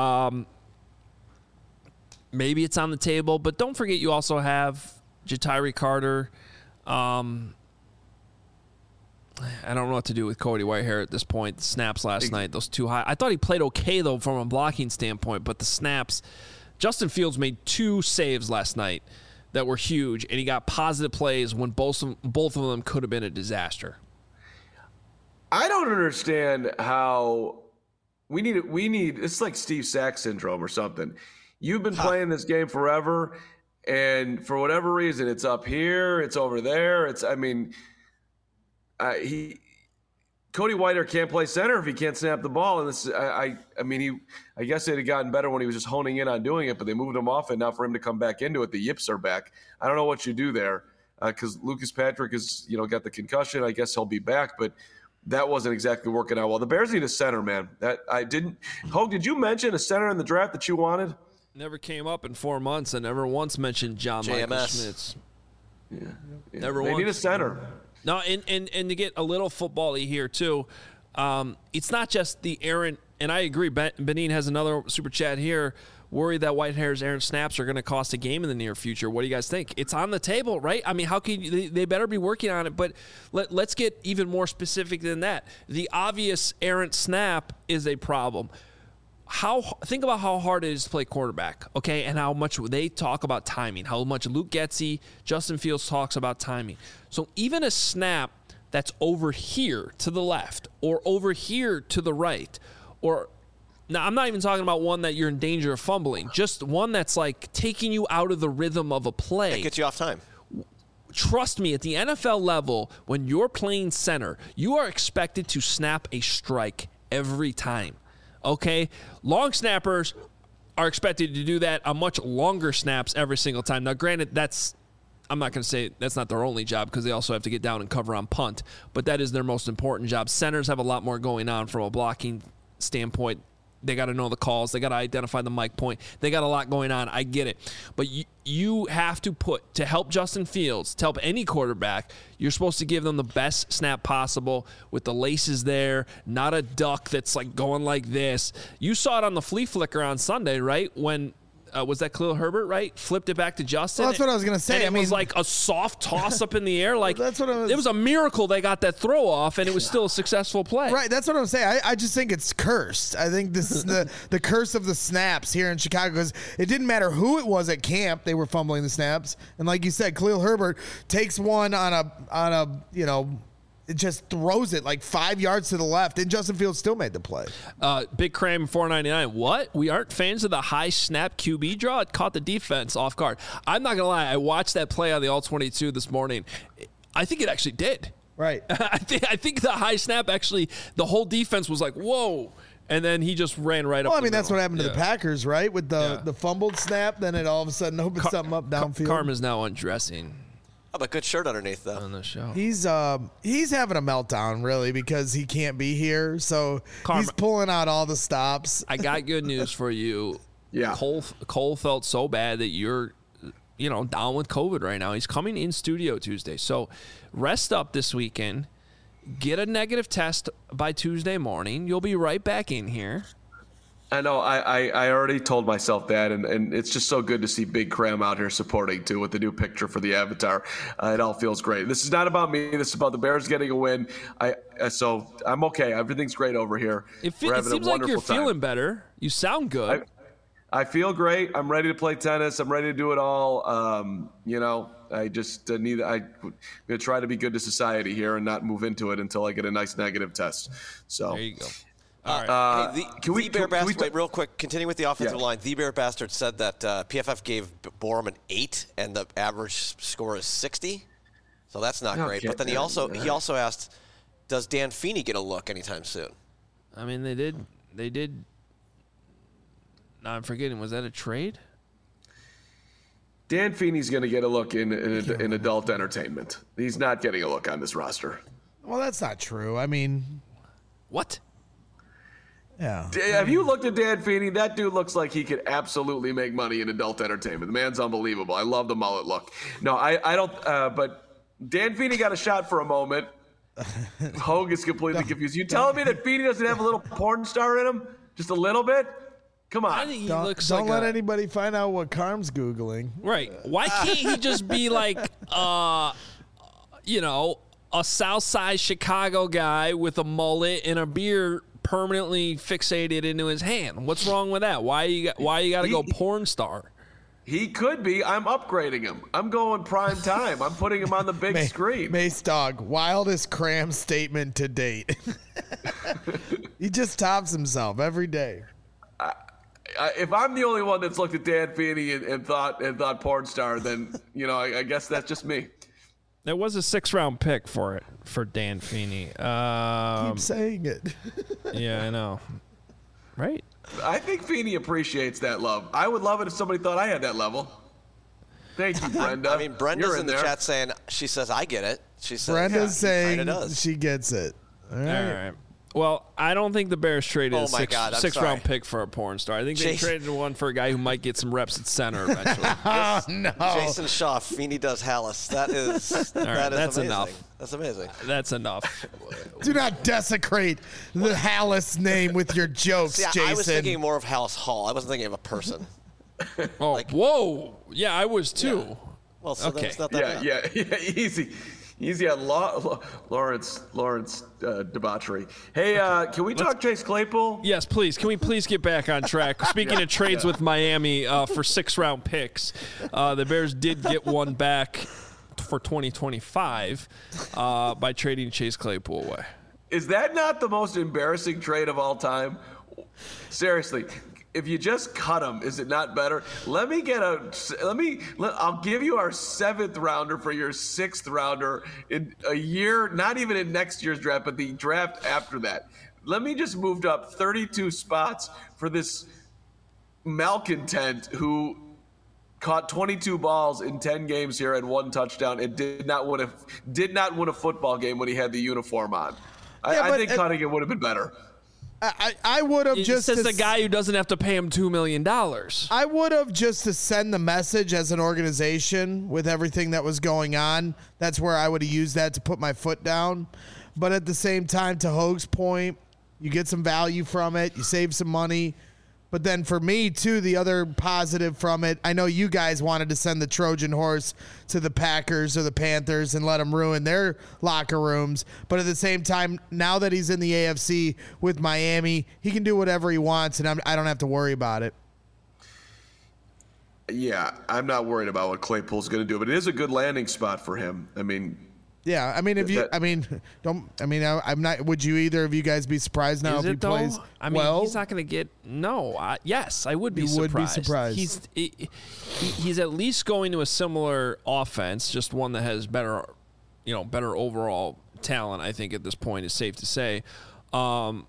Maybe it's on the table, but don't forget you also have Ja'Tyre Carter. I don't know what to do with Cody Whitehair at this point. The snaps last night, those too high. I thought he played okay, though, from a blocking standpoint, but the snaps, Justin Fields made 2 saves last night that were huge, and he got positive plays when both of them could have been a disaster. I don't understand how we need it's like Steve Sack syndrome or something. You've been playing this game forever, and for whatever reason, it's up here, it's over there. Cody Whitehair can't play center if he can't snap the ball. And this, I guess it had gotten better when he was just honing in on doing it, but they moved him off, and now for him to come back into it, the yips are back. I don't know what you do there because Lucas Patrick has got the concussion. I guess he'll be back, but that wasn't exactly working out well. The Bears need a center, man. Hogue, did you mention a center in the draft that you wanted? Never came up in 4 months. I never once mentioned John Michael Schmitz. Yeah. Never they once. Need a center. No, and to get a little football-y here, too, it's not just the errant, and I agree, Benin has another super chat here, worried that Whitehair's errant snaps are going to cost a game in the near future. What do you guys think? It's on the table, right? I mean, how can they better be working on it, but let's get even more specific than that. The obvious errant snap is a problem. Think about how hard it is to play quarterback, okay, and how much they talk about timing, how much Luke Getsy, Justin Fields talks about timing. So even a snap that's over here to the left or over here to the right, or now I'm not even talking about one that you're in danger of fumbling, just one that's like taking you out of the rhythm of a play. It gets you off time. Trust me, at the NFL level, when you're playing center, you are expected to snap a strike every time. Okay, long snappers are expected to do that on much longer snaps every single time. Now, granted, I'm not going to say that's not their only job because they also have to get down and cover on punt, but that is their most important job. Centers have a lot more going on from a blocking standpoint. They got to know the calls. They got to identify the mic point. They got a lot going on. I get it. But you have to help Justin Fields, to help any quarterback, you're supposed to give them the best snap possible with the laces there, not a duck that's like going like this. You saw it on the flea flicker on Sunday, right? When was that Khalil Herbert, right? Flipped it back to Justin. Well, that's what I was going to say. And it was like a soft toss up in the air. Like that's what it was a miracle they got that throw off, and it was still a successful play. Right, that's what I'm saying. I just think it's cursed. I think this is the curse of the snaps here in Chicago because it didn't matter who it was at camp, they were fumbling the snaps. And like you said, Khalil Herbert takes one on a it just throws it like 5 yards to the left, and Justin Fields still made the play. Big Cram $4.99. What? We aren't fans of the high snap QB draw? It caught the defense off guard. I'm not going to lie. I watched that play on the All-22 this morning. I think it actually did. Right. I think the high snap actually, the whole defense was like, whoa. And then he just ran right up. Well, I mean, that's what happened to the Packers, right? With the fumbled snap, then it all of a sudden opened something up downfield. Karma's now undressing. Oh, but good shirt underneath, though. On the show. He's having a meltdown, really, because he can't be here. So he's pulling out all the stops. I got good news for you. Yeah. Cole felt so bad that you're, down with COVID right now. He's coming in studio Tuesday. So rest up this weekend. Get a negative test by Tuesday morning. You'll be right back in here. I know. I already told myself that, and it's just so good to see Big Cram out here supporting, too, with the new picture for the avatar. It all feels great. This is not about me. This is about the Bears getting a win. So I'm okay. Everything's great over here. It seems like you're feeling better. You sound good. I feel great. I'm ready to play tennis. I'm ready to do it all. I just I'm going to try to be good to society here and not move into it until I get a nice negative test. So there you go. All right. Wait, real quick, continue with the offensive line. The Bear Bastard said that PFF gave Borum an 8 and the average score is 60. So that's not great. But then he also asked, does Dan Feeney get a look anytime soon? I mean, they did. No, I'm forgetting. Was that a trade? Dan Feeney's going to get a look in adult entertainment. He's not getting a look on this roster. Well, that's not true. I mean, what? Yeah. Have you looked at Dan Feeney? That dude looks like he could absolutely make money in adult entertainment. The man's unbelievable. I love the mullet look. No, I don't. But Dan Feeney got a shot for a moment. Hogue is completely confused. You telling me that Feeney doesn't have a little porn star in him? Just a little bit? Come on. Don't let anybody find out what Carm's Googling. Right. Why can't he just be like, a Southside Chicago guy with a mullet and a beard permanently fixated into his hand. What's wrong with that? Why you got to go porn star? He could be. I'm upgrading him. I'm going prime time. I'm putting him on the big screen. Mace Dog, wildest cram statement to date. He just tops himself every day. If I'm the only one that's looked at Dan Feeney and thought porn star, then I guess that's just me. There was a 6th-round pick for Dan Feeney. Keep saying it. Yeah, I know. Right? I think Feeney appreciates that love. I would love it if somebody thought I had that level. Thank you, Brenda. I mean, Brenda's in the chat saying, she says, I get it. She says, Brenda's saying she gets it. All right. Well, I don't think the Bears traded a 6th-round pick for a porn star. I think they traded one for a guy who might get some reps at center eventually. No. Jason Shaw, Feeney does Hallis. That's amazing. Enough. That's amazing. That's enough. Do not desecrate the Hallis name with your jokes, Jason. I was thinking more of Hallis Hall. I wasn't thinking of a person. Whoa. Yeah, I was too. Yeah. Well, so that's not that bad. Yeah, easy on Lawrence debauchery. Hey, can we talk Chase Claypool? Yes, please. Can we please get back on track? Speaking of trades with Miami for 6th-round picks, the Bears did get one back for 2025 by trading Chase Claypool away. Is that not the most embarrassing trade of all time? Seriously. If you just cut him, is it not better? I'll give you our 7th rounder for your 6th rounder in a year, not even in next year's draft, but the draft after that. Let me just move up 32 spots for this malcontent who caught 22 balls in 10 games here and 1 touchdown and did not win a football game when he had the uniform on. I think cutting it would have been better. I would have just as the guy who doesn't have to pay him $2 million. I would have just to send the message as an organization with everything that was going on. That's where I would have used that to put my foot down. But at the same time, to Hoag's point, you get some value from it. You save some money. But then for me, too, the other positive from it, I know you guys wanted to send the Trojan horse to the Packers or the Panthers and let them ruin their locker rooms. But at the same time, now that he's in the AFC with Miami, he can do whatever he wants, and I don't have to worry about it. Yeah, I'm not worried about what Claypool's going to do, but it is a good landing spot for him. I mean... Yeah, I mean, I'm not. Would you either of you guys be surprised now if he plays? I mean, he's not going to get. No, yes, I would be surprised. Would be surprised. He's at least going to a similar offense, just one that has better overall talent. I think at this point is safe to say, but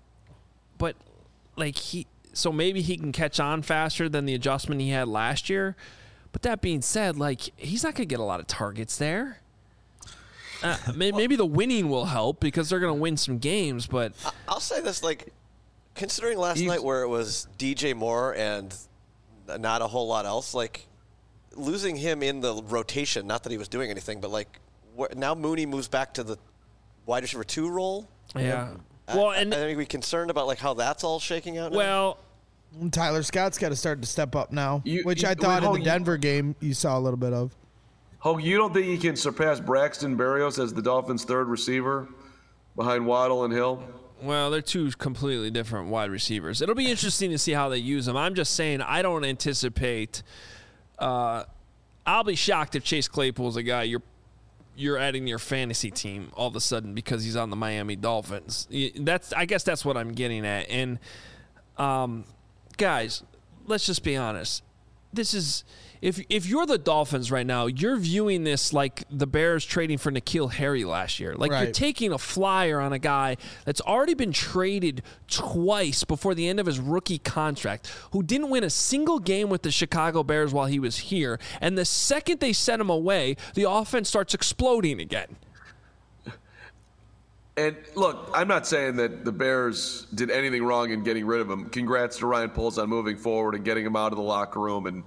so maybe he can catch on faster than the adjustment he had last year. But that being said, he's not going to get a lot of targets there. Maybe the winning will help because they're going to win some games, but... I'll say this, considering last night where it was DJ Moore and not a whole lot else, losing him in the rotation, not that he was doing anything, but, now Mooney moves back to the wide receiver 2 role. Yeah. I think we're concerned about, how that's all shaking out now. Well... Tyler Scott's got to start to step up now, which I thought in the Denver game you saw a little bit of. Hogue, you don't think he can surpass Braxton Berrios as the Dolphins' 3rd receiver behind Waddle and Hill? Well, they're 2 completely different wide receivers. It'll be interesting to see how they use them. I'm just saying I don't anticipate I'll be shocked if Chase Claypool's a guy you're adding to your fantasy team all of a sudden because he's on the Miami Dolphins. I guess that's what I'm getting at. And guys, let's just be honest. This is if you're the Dolphins right now, you're viewing this like the Bears trading for N'Keal Harry last year. You're taking a flyer on a guy that's already been traded twice before the end of his rookie contract, who didn't win a single game with the Chicago Bears while he was here. And the second they sent him away, the offense starts exploding again. And look, I'm not saying that the Bears did anything wrong in getting rid of him. Congrats to Ryan Poles on moving forward and getting him out of the locker room and,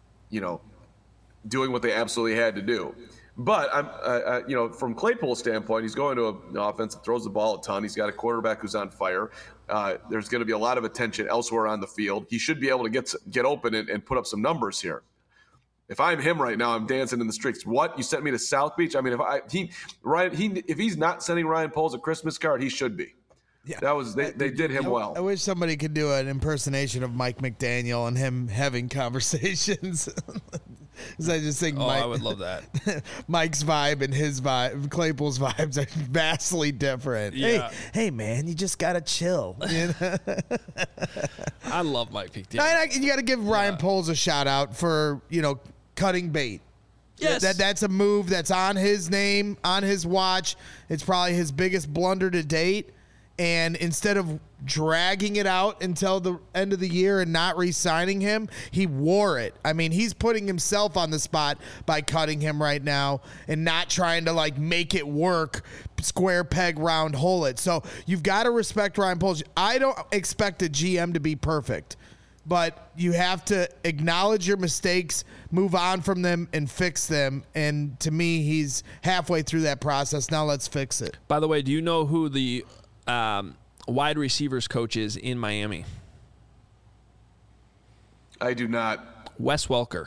doing what they absolutely had to do. But from Claypool's standpoint, he's going to an offense that throws the ball a ton. He's got a quarterback who's on fire. There's going to be a lot of attention elsewhere on the field. He should be able to get open and put up some numbers here. If I'm him right now, I'm dancing in the streets. What? You sent me to South Beach? I mean, if he's not sending Ryan Poles a Christmas card, he should be. Yeah, that was they did him well. I wish somebody could do an impersonation of Mike McDaniel and him having conversations. Because I just think I would love that. Mike's vibe and his vibe, Claypool's vibes are vastly different. Yeah. Hey, man, you just gotta chill. You know? I love Mike McDaniel. You got to give Ryan Poles a shout out for cutting bait. Yes. That's a move that's on his name, on his watch. It's probably his biggest blunder to date. And instead of dragging it out until the end of the year and not re-signing him, he wore it. I mean, he's putting himself on the spot by cutting him right now and not trying to make it work, square peg, round hole it. So you've got to respect Ryan Poles. I don't expect a GM to be perfect, but you have to acknowledge your mistakes, move on from them, and fix them. And to me, he's halfway through that process. Now let's fix it. By the way, do you know who the wide receivers coach is in Miami? I do not. Wes Welker.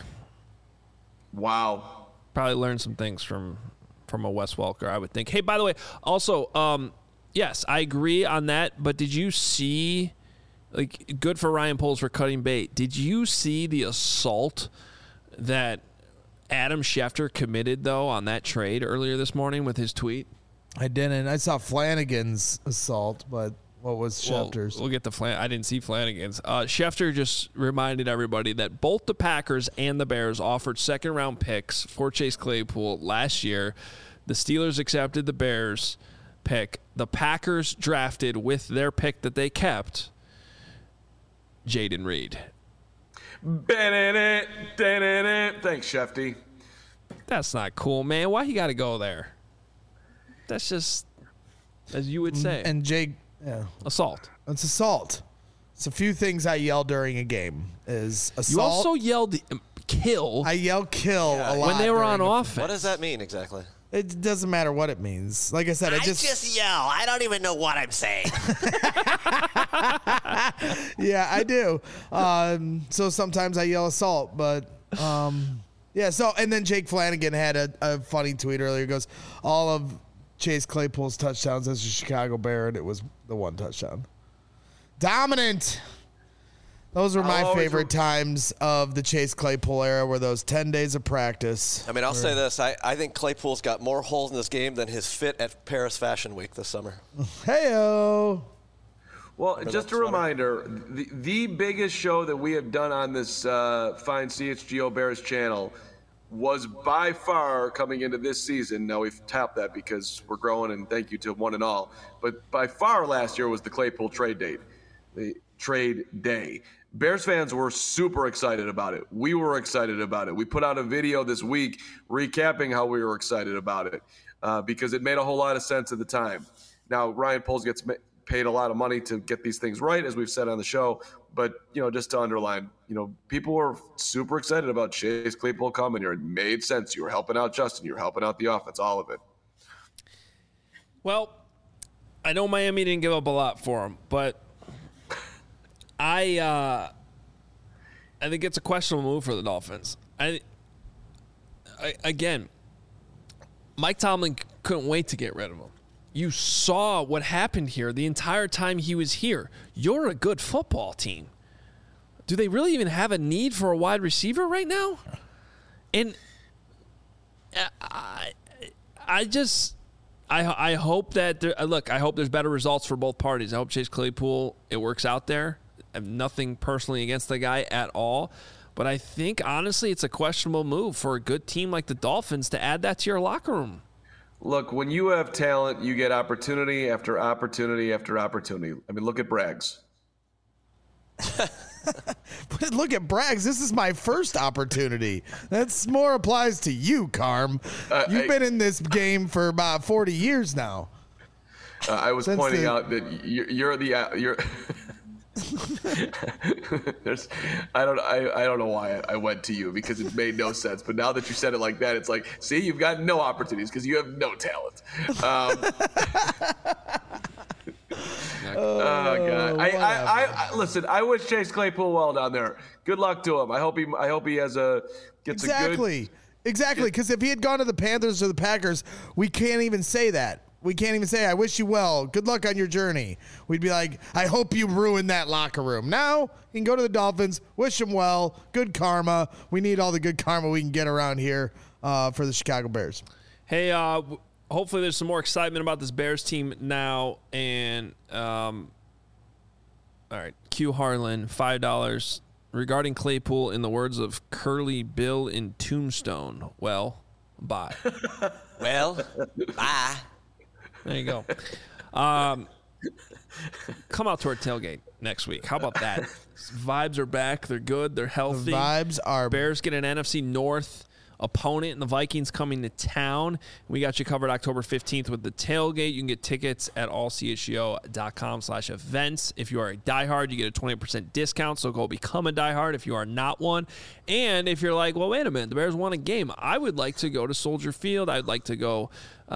Wow. Probably learned some things from a Wes Welker, I would think. Hey, by the way, also, yes, I agree on that, but did you see, good for Ryan Poles for cutting bait. Did you see the assault that Adam Schefter committed, though, on that trade earlier this morning with his tweet? I didn't. I saw Flanagan's assault, but what was Schefter's? We'll get to I didn't see Flanagan's. Schefter just reminded everybody that both the Packers and the Bears offered second-round picks for Chase Claypool last year. The Steelers accepted the Bears pick. The Packers drafted with their pick that they kept, Jaden Reed. Thanks, Shefty. That's not cool, man. Why you got to go there? That's just, as you would say. And Jake, assault. It's assault. It's a few things I yell during a game. Is assault. You also yelled kill. I yell kill a lot when they were on offense. What does that mean exactly? It doesn't matter what it means. Like I said, I just yell. I don't even know what I'm saying. Yeah, I do. So sometimes I yell assault, but yeah. So and then Jake Flanagan had a funny tweet earlier. He goes, all of Chase Claypool's touchdowns as a Chicago Bear, and it was the one touchdown. Dominant. Those were my favorite times of the Chase Claypool era, were those 10 days of practice. I mean, I'll say this. I think Claypool's got more holes in this game than his fit at Paris Fashion Week this summer. Hey-o. Well, just a reminder, the biggest show that we have done on this fine CHGO Bears channel was by far coming into this season. Now we've tapped that because we're growing, and thank you to one and all. But by far last year was the Claypool trade date, the trade day. Bears fans were super excited about it. We were excited about it. We put out a video this week recapping how we were excited about it because it made a whole lot of sense at the time. Now Ryan Poles gets paid a lot of money to get these things right, as we've said on the show. But, just to underline, people were super excited about Chase Claypool coming here. It made sense. You were helping out Justin. You were helping out the offense, all of it. Well, I know Miami didn't give up a lot for him, but I think it's a questionable move for the Dolphins. Again, Mike Tomlin couldn't wait to get rid of him. You saw what happened here the entire time he was here. You're a good football team. Do they really even have a need for a wide receiver right now? And I hope that I hope there's better results for both parties. I hope Chase Claypool, it works out there. I have nothing personally against the guy at all. But I think, honestly, it's a questionable move for a good team like the Dolphins to add that to your locker room. Look, when you have talent, you get opportunity after opportunity after opportunity. I mean, look at Braggs. Look at Braggs. This is my first opportunity. That's more applies to you, Carm. You've been in this game for about 40 years now. I was pointing out that you're I don't know why I went to you, because it made no sense. But now that you said it like that, it's like, see, you've got no opportunities because you have no talent. God. I listen. I wish Chase Claypool well down there. Good luck to him. I hope he gets a good. Exactly. Because if he had gone to the Panthers or the Packers, we can't even say that. We can't even say, I wish you well. Good luck on your journey. We'd be like, I hope you ruin that locker room. Now, you can go to the Dolphins, wish him well, good karma. We need all the good karma we can get around here for the Chicago Bears. Hey, hopefully there's some more excitement about this Bears team now. And, all right, Q Harlan, $5. Regarding Claypool, in the words of Curly Bill in Tombstone, well, bye. Well, bye. There you go. Come out to our tailgate next week. How about that? Vibes are back. They're good. They're healthy. The vibes are. Bears get an NFC North opponent, and the Vikings coming to town. We got you covered October 15th with the tailgate. You can get tickets at allchgo.com/events. If you are a diehard, you get a 20% discount, so go become a diehard if you are not one. And if you're like, well, wait a minute, the Bears won a game. I would like to go to Soldier Field. I'd like to go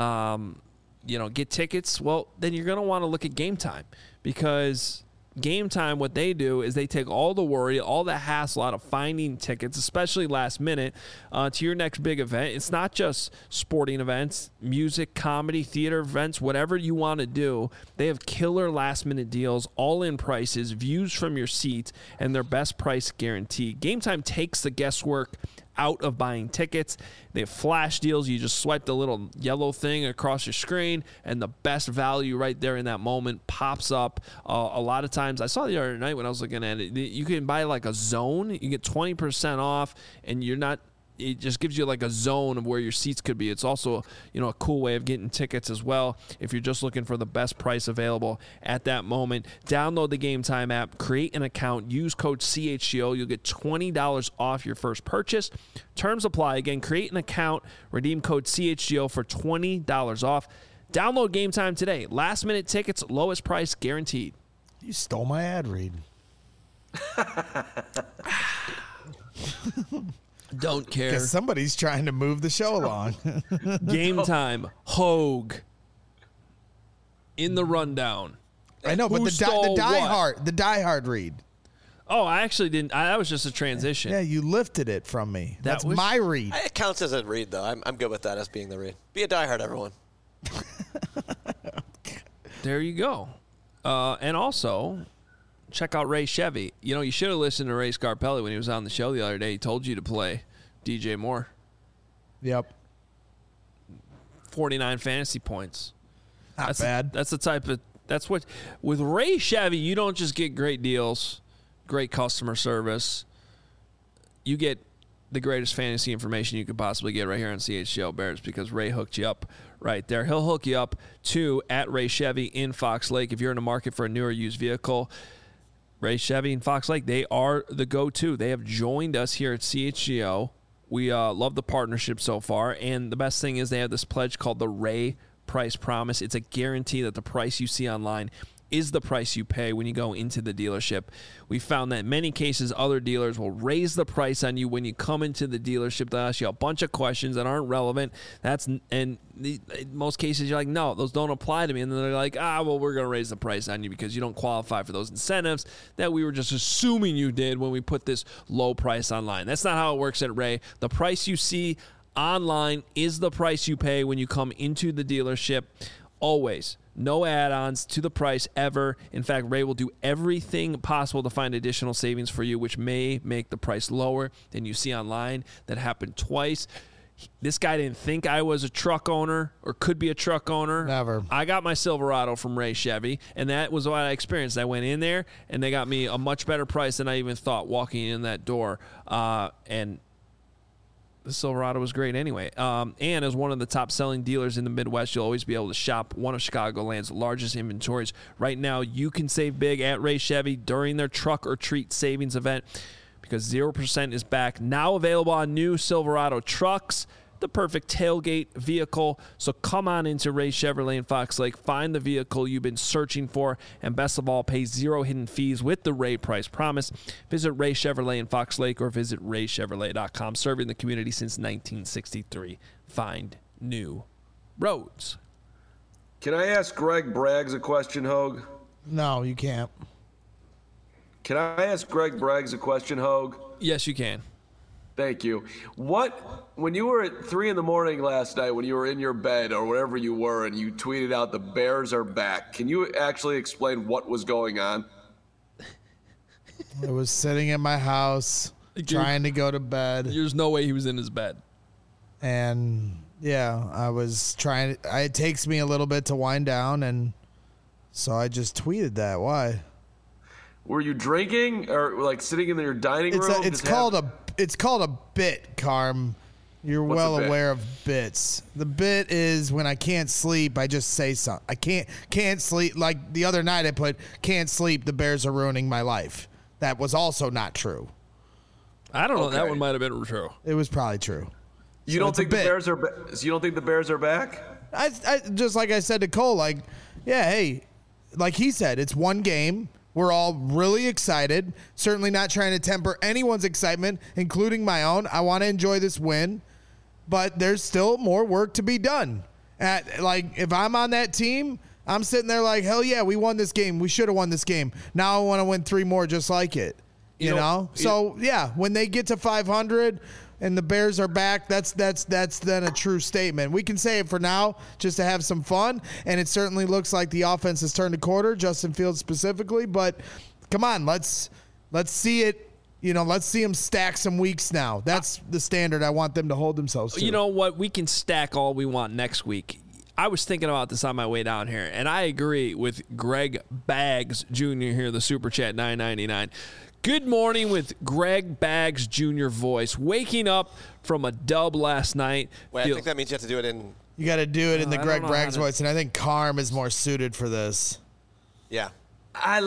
get tickets. Well, then you're going to want to look at Game Time, because Game Time, what they do is they take all the worry, all the hassle out of finding tickets, especially last minute, to your next big event. It's not just sporting events, music, comedy, theater events, whatever you want to do. They have killer last-minute deals, all-in prices, views from your seat, and their best price guarantee. Game Time takes the guesswork out of buying tickets. They have flash deals. You just swipe the little yellow thing across your screen, and the best value right there in that moment pops up. A lot of times, I saw the other night when I was looking at it, you can buy like a zone. You get 20% off, and it just gives you like a zone of where your seats could be. It's also, a cool way of getting tickets as well if you're just looking for the best price available at that moment. Download the Game Time app, create an account, use code CHGO. You'll get $20 off your first purchase. Terms apply. Again, create an account, redeem code CHGO for $20 off. Download Game Time today. Last minute tickets, lowest price guaranteed. You stole my ad read. Don't care. Because somebody's trying to move the show along. Game Time. Hogue. In the rundown. I know, but the diehard read. Oh, I actually didn't. That was just a transition. Yeah, you lifted it from me. That's my read. It counts as a read, though. I'm good with that as being the read. Be a diehard, everyone. There you go. And also, check out Ray Chevy. You should have listened to Ray Scarpelli when he was on the show the other day. He told you to play DJ Moore. Yep. 49 fantasy points. Not bad. That's what, with Ray Chevy, you don't just get great deals, great customer service. You get the greatest fantasy information you could possibly get right here on CHGO Bears, because Ray hooked you up right there. He'll hook you up too at Ray Chevy in Fox Lake. If you're in the market for a newer used vehicle, Ray Chevy and Fox Lake, they are the go-to. They have joined us here at CHGO. We love the partnership so far, and the best thing is they have this pledge called the Ray Price Promise. It's a guarantee that the price you see online is the price you pay when you go into the dealership. We found that in many cases, other dealers will raise the price on you when you come into the dealership. They'll ask you a bunch of questions that aren't relevant. In most cases, you're like, no, those don't apply to me. And then they're like, we're going to raise the price on you because you don't qualify for those incentives that we were just assuming you did when we put this low price online. That's not how it works at Ray. The price you see online is the price you pay when you come into the dealership. Always. No add-ons to the price ever. In fact, Ray will do everything possible to find additional savings for you, which may make the price lower than you see online. That happened twice. This guy didn't think I was a truck owner or could be a truck owner. Never. I got my Silverado from Ray Chevy, and that was what I experienced. I went in there, and they got me a much better price than I even thought walking in that door. And the Silverado was great anyway. And as one of the top-selling dealers in the Midwest, you'll always be able to shop one of Chicagoland's largest inventories. Right now, you can save big at Ray Chevy during their Truck or Treat Savings event, because 0% is back. Now available on new Silverado trucks, the perfect tailgate vehicle. So come on into Ray Chevrolet in Fox Lake. Find the vehicle you've been searching for, and best of all, pay zero hidden fees with the Ray Price Promise. Visit Ray Chevrolet in Fox Lake or visit raychevrolet.com. Serving the community since 1963. Find new roads. Can I ask Greg Braggs a question, Hogue? No, you can't. Can I ask Greg Braggs a question, Hogue? Yes, you can. Thank you. When you were at 3 a.m. last night, when you were in your bed or wherever you were, and you tweeted out the Bears are back, can you actually explain what was going on? I was sitting in my house trying to go to bed. There's no way he was in his bed. And yeah, I was trying. It takes me a little bit to wind down, and so I just tweeted that. Why? Were you drinking or like sitting in your dining room? It's called a bit, Carm. You're well aware of bits. The bit is when I can't sleep, I just say something. I can't sleep. Like the other night, I put "can't sleep. The Bears are ruining my life." That was also not true. I don't know. That one might have been true. It was probably true. You don't think the Bears are? You don't think the Bears are back? I just like I said to Cole, like, yeah, hey, like he said, it's one game. We're all really excited. Certainly not trying to temper anyone's excitement, including my own. I want to enjoy this win, but there's still more work to be done. Like, if I'm on that team, I'm sitting there like, hell yeah, we won this game. We should have won this game. Now I want to win 3 more just like it. You know? So, yeah, when they get to 500 and the Bears are back, that's then a true statement. We can say it for now just to have some fun, and it certainly looks like the offense has turned a quarter, Justin Fields specifically, but come on, let's see it. You know, let's see them stack some weeks now. That's the standard I want them to hold themselves to. You know what? We can stack all we want next week. I was thinking about this on my way down here, and I agree with Greg Baggs Jr. here, the Super Chat $9.99. Good morning with Greg Baggs Jr. voice. Waking up from a dub last night. Wait, I think that means you have to do it in... You got to do it in the Greg Baggs voice, and I think Carm is more suited for this. Yeah. I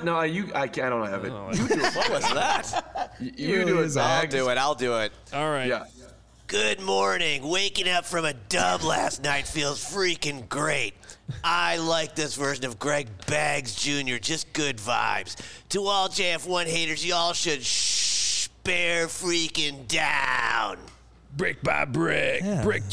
don't have it. You do it. What was that? You do it, Baggs. I'll do it. All right. Yeah. Good morning. Waking up from a dub last night feels freaking great. I like this version of Greg Baggs Jr. Just good vibes. To all JF1 haters, y'all should bear freaking down. Brick by brick. Yeah. Brick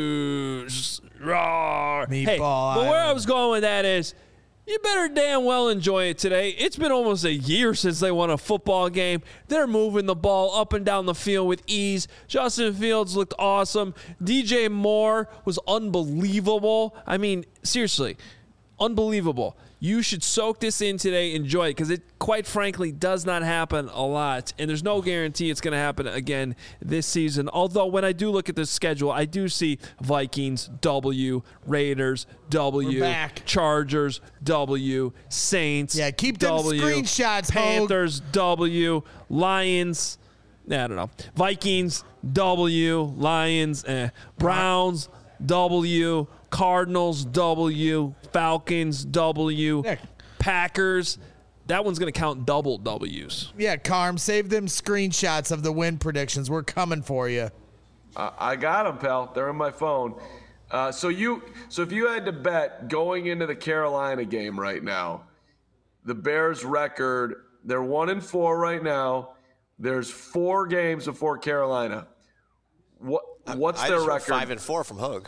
juice. Raw. Meatball. Hey, but where I was going with that is, you better damn well enjoy it today. It's been almost a year since they won a football game. They're moving the ball up and down the field with ease. Justin Fields looked awesome. DJ Moore was unbelievable. I mean, seriously, unbelievable. You should soak this in today, enjoy it, because it, quite frankly, does not happen a lot, and there's no guarantee it's going to happen again this season. Although, when I do look at the schedule, I do see Vikings, W, Raiders, W, Chargers, W, Saints, keep them W, screenshots, Panthers, W, Lions, I don't know, Vikings, W, Lions, Browns, W, Cardinals, W, Falcons, W, Packers. That one's going to count double W's. Yeah, Carm, save them screenshots of the win predictions. We're coming for you. I got them, pal. They're on my phone. So if you had to bet going into the Carolina game right now, the Bears record, they're 1-4 right now. There's 4 games before Carolina. What's their record? 5-4 from Hogue.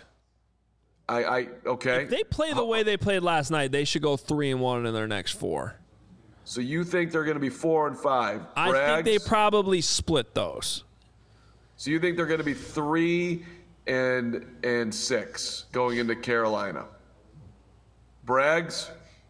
Okay. If they play the way they played last night, they should go 3-1 in their next 4. So you think they're going to be 4-5? I think they probably split those. So you think they're going to be 3-6 going into Carolina? Braggs?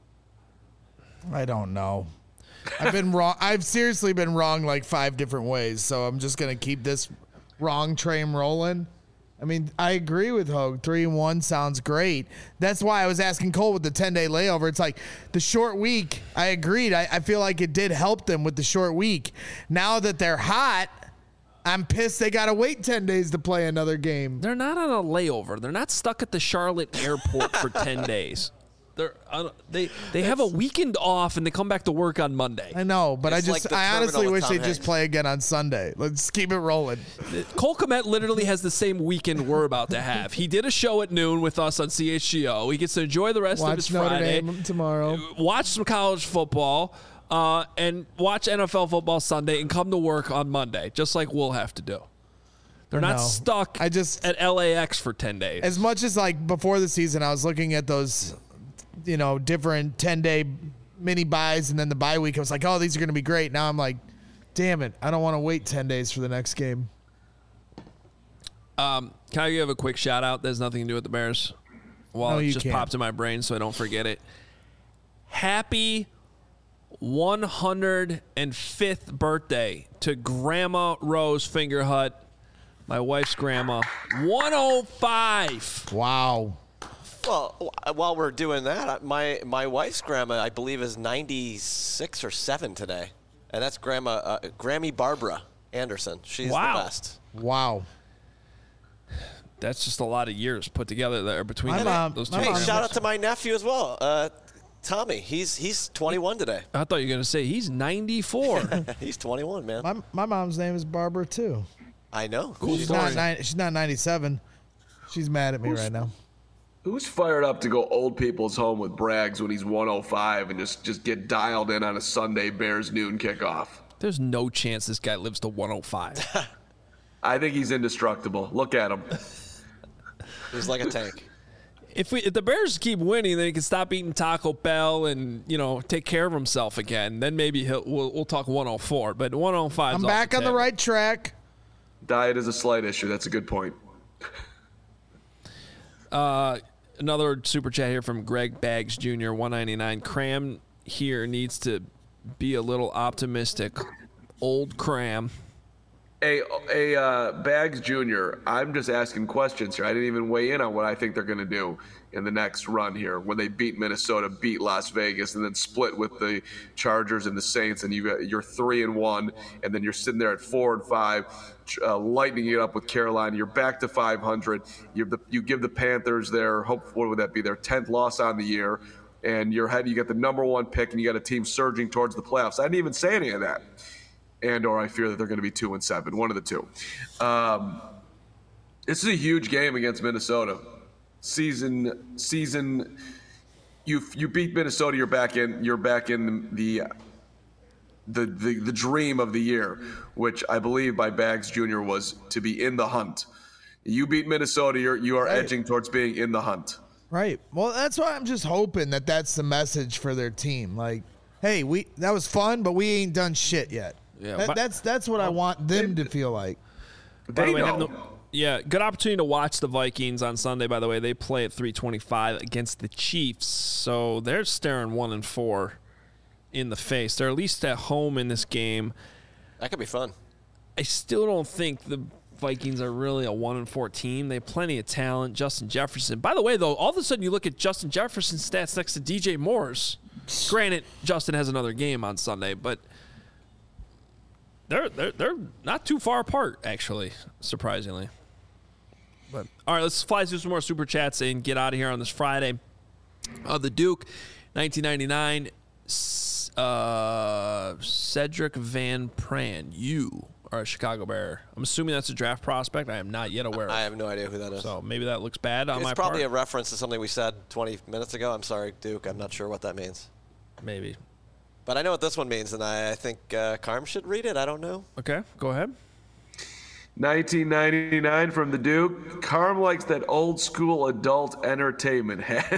I don't know. I've been wrong. I've seriously been wrong like 5 different ways. So I'm just going to keep this wrong train rolling. I mean, I agree with Hogue. 3-1 sounds great. That's why I was asking Cole with the 10-day layover. It's like the short week. I agreed. I feel like it did help them with the short week. Now that they're hot, I'm pissed they got to wait 10 days to play another game. They're not on a layover. They're not stuck at the Charlotte airport for 10 days. They have a weekend off and they come back to work on Monday. I know, but I honestly wish they'd just play again on Sunday. Let's keep it rolling. Cole Kmet literally has the same weekend we're about to have. He did a show at noon with us on CHGO. He gets to enjoy the rest of his Friday. Notre Dame tomorrow. Watch some college football and watch NFL football Sunday and come to work on Monday, just like we'll have to do. They're not stuck at LAX for 10 days. As much as like before the season, I was looking at those different 10-day mini buys, and then the bye week, I was like, oh, these are going to be great. Now I'm like, damn it, I don't want to wait 10 days for the next game. Can I give a quick shout out? There's nothing to do with the Bears. Well, no, it just can't. popped in my brain, so I don't forget it. Happy 105th birthday to Grandma Rose Fingerhut, my wife's grandma. 105. Wow. Well, while we're doing that, my wife's grandma, I believe, is 96 or 7 today. And that's Grammy Barbara Anderson. She's the best. Wow. That's just a lot of years put together there between those two. Hey, shout out to my nephew as well, Tommy. He's 21 today. I thought you were going to say he's 94. He's 21, man. My mom's name is Barbara, too. I know. Cool She's story. she's not 97. She's mad at me right now. Who's fired up to go old people's home with Braggs when he's 105 and just get dialed in on a Sunday Bears noon kickoff? There's no chance this guy lives to 105. I think he's indestructible. Look at him. He's like a tank. If the Bears keep winning, then he can stop eating Taco Bell and take care of himself again. Then maybe we'll talk 104. But 105. I'm back on the right track. Diet is a slight issue. That's a good point. Another super chat here from Greg Baggs Jr. 199. Cram here needs to be a little optimistic. Old Cram. Hey, Baggs Jr., I'm just asking questions here. I didn't even weigh in on what I think they're going to do in the next run here when they beat Minnesota, beat Las Vegas, and then split with the Chargers and the Saints, and you're 3-1, and then you're sitting there at 4-5, lightening it up with Carolina. You're back to 500. You give the Panthers what would that be, their 10th loss on the year, and you get the number 1 pick, and you got a team surging towards the playoffs. I didn't even say any of that. Or I fear that they're going to be 2-7, one of the two. This is a huge game against Minnesota. Season. You beat Minnesota. You're back in the dream of the year, which I believe by Baggs Jr. was to be in the hunt. You beat Minnesota. You are edging towards being in the hunt. Right. Well, that's why I'm just hoping that that's the message for their team. Like, hey, that was fun, but we ain't done shit yet. Yeah, that's what I want them to feel like. By the way, good opportunity to watch the Vikings on Sunday, by the way. They play at 3:25 against the Chiefs, so they're staring 1-4 in the face. They're at least at home in this game. That could be fun. I still don't think the Vikings are really a 1-4 team. They have plenty of talent. Justin Jefferson. By the way, though, all of a sudden you look at Justin Jefferson's stats next to DJ Moore's. Granted, Justin has another game on Sunday, but they're not too far apart, actually, surprisingly. But all right, let's fly through some more super chats and get out of here on this Friday. The Duke, 1999. Cedric Van Pran. You are a Chicago Bear. I'm assuming that's a draft prospect. I am not yet aware of. I have no idea who that is. So maybe that looks bad on my part. It's probably a reference to something we said 20 minutes ago. I'm sorry, Duke. I'm not sure what that means. Maybe. But I know what this one means, and I think Carm should read it. I don't know. Okay, go ahead. 1999 from the Duke. Carm likes that old school adult entertainment.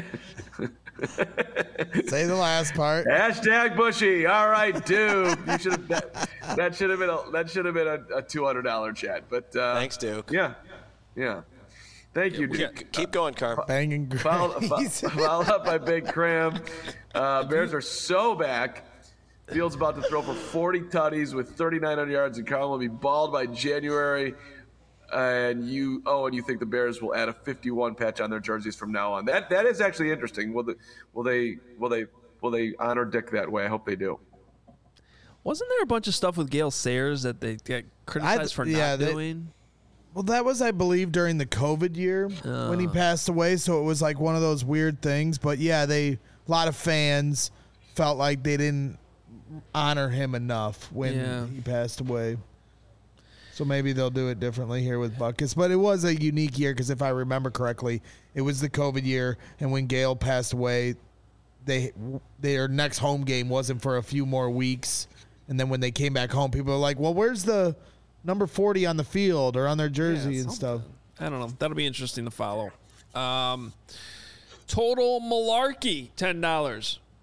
Say the last part. Hashtag Bushy. All right, Duke. You should have that should have been a $200 chat. But thanks, Duke. Yeah. Thank you, Duke. Keep going, Carm. Banging. Followed up by Big Cram. Bears are so back. Fields about to throw for 40 tutties with 3,900 yards, and Carl will be balled by January. And you think the Bears will add a 51 patch on their jerseys from now on? That is actually interesting. Will they honor Dick that way? I hope they do. Wasn't there a bunch of stuff with Gale Sayers that they got criticized for not doing? Well, that was, I believe, during the COVID year when he passed away. So it was like one of those weird things. But yeah, a lot of fans felt like they didn't honor him enough when he passed away. So maybe they'll do it differently here with Buckus. But it was a unique year because if I remember correctly, it was the COVID year. And when Gale passed away, their next home game wasn't for a few more weeks. And then when they came back home, people were like, well, where's the number 40 on the field or on their jersey and stuff? I don't know. That'll be interesting to follow. Total Malarkey, $10.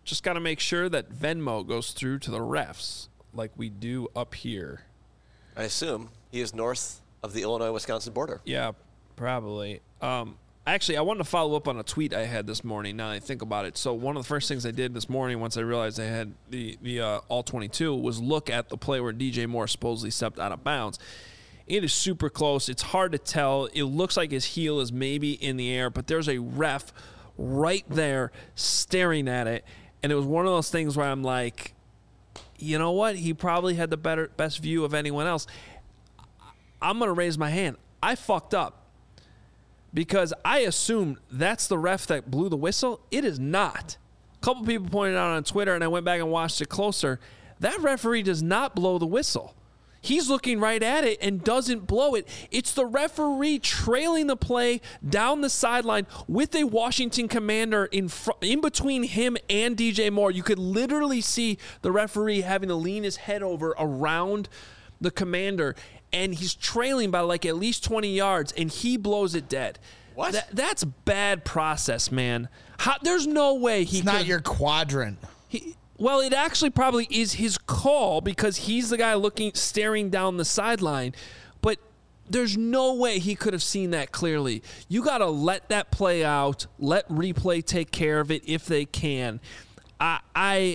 Just got to make sure that Venmo goes through to the refs like we do up here. I assume he is north of the Illinois-Wisconsin border. Yeah, probably. Actually, I wanted to follow up on a tweet I had this morning, now that I think about it. So one of the first things I did this morning once I realized I had the All-22 was look at the play where DJ Moore supposedly stepped out of bounds. It is super close. It's hard to tell. It looks like his heel is maybe in the air, but there's a ref right there staring at it. And it was one of those things where I'm like, you know what? He probably had the best view of anyone else. I'm going to raise my hand. I fucked up because I assumed that's the ref that blew the whistle. It is not. A couple people pointed out on Twitter, and I went back and watched it closer. That referee does not blow the whistle. He's looking right at it and doesn't blow it. It's the referee trailing the play down the sideline with a Washington Commander in between him and DJ Moore. You could literally see the referee having to lean his head over around the Commander, and he's trailing by like at least 20 yards, and he blows it dead. What? That's bad process, man. There's no way he It's not your quadrant. Well, it actually probably is his call because he's the guy staring down the sideline. But there's no way he could have seen that clearly. You got to let that play out. Let replay take care of it if they can. I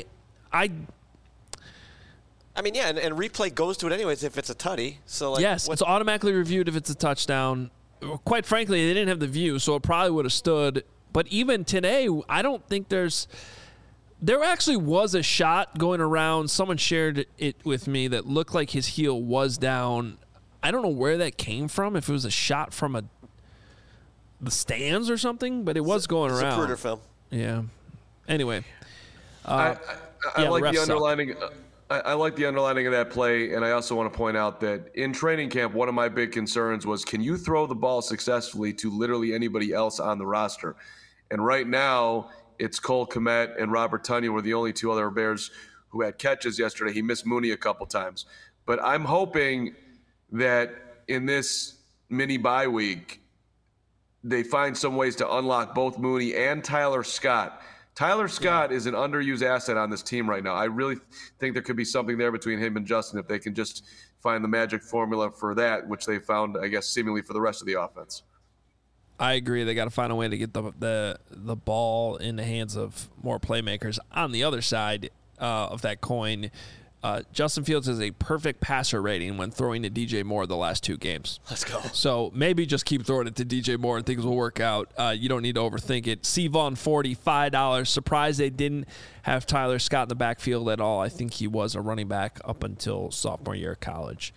mean, yeah, and replay goes to it anyways if it's a tutty. So like, yes, it's automatically reviewed if it's a touchdown. Quite frankly, they didn't have the view, so it probably would have stood. But even today, I don't think there actually was a shot going around. Someone shared it with me that looked like his heel was down. I don't know where that came from, if it was a shot from the stands or something, but it was going around. Zapruder film. Yeah. Anyway. I like the underlining. I like the underlining of that play, and I also want to point out that in training camp, one of my big concerns was, can you throw the ball successfully to literally anybody else on the roster? And right now, it's Cole Kmet and Robert Tonyan were the only two other Bears who had catches yesterday. He missed Mooney a couple times. But I'm hoping that in this mini bye week, they find some ways to unlock both Mooney and Tyler Scott. Tyler Scott is an underused asset on this team right now. I really think there could be something there between him and Justin if they can just find the magic formula for that, which they found, I guess, seemingly for the rest of the offense. I agree. They got to find a way to get the ball in the hands of more playmakers. On the other side of that coin, Justin Fields has a perfect passer rating when throwing to DJ Moore the last two games. Let's go. So maybe just keep throwing it to DJ Moore and things will work out. You don't need to overthink it. Cvon 40, $5. Surprised they didn't have Tyler Scott in the backfield at all. I think he was a running back up until sophomore year of college.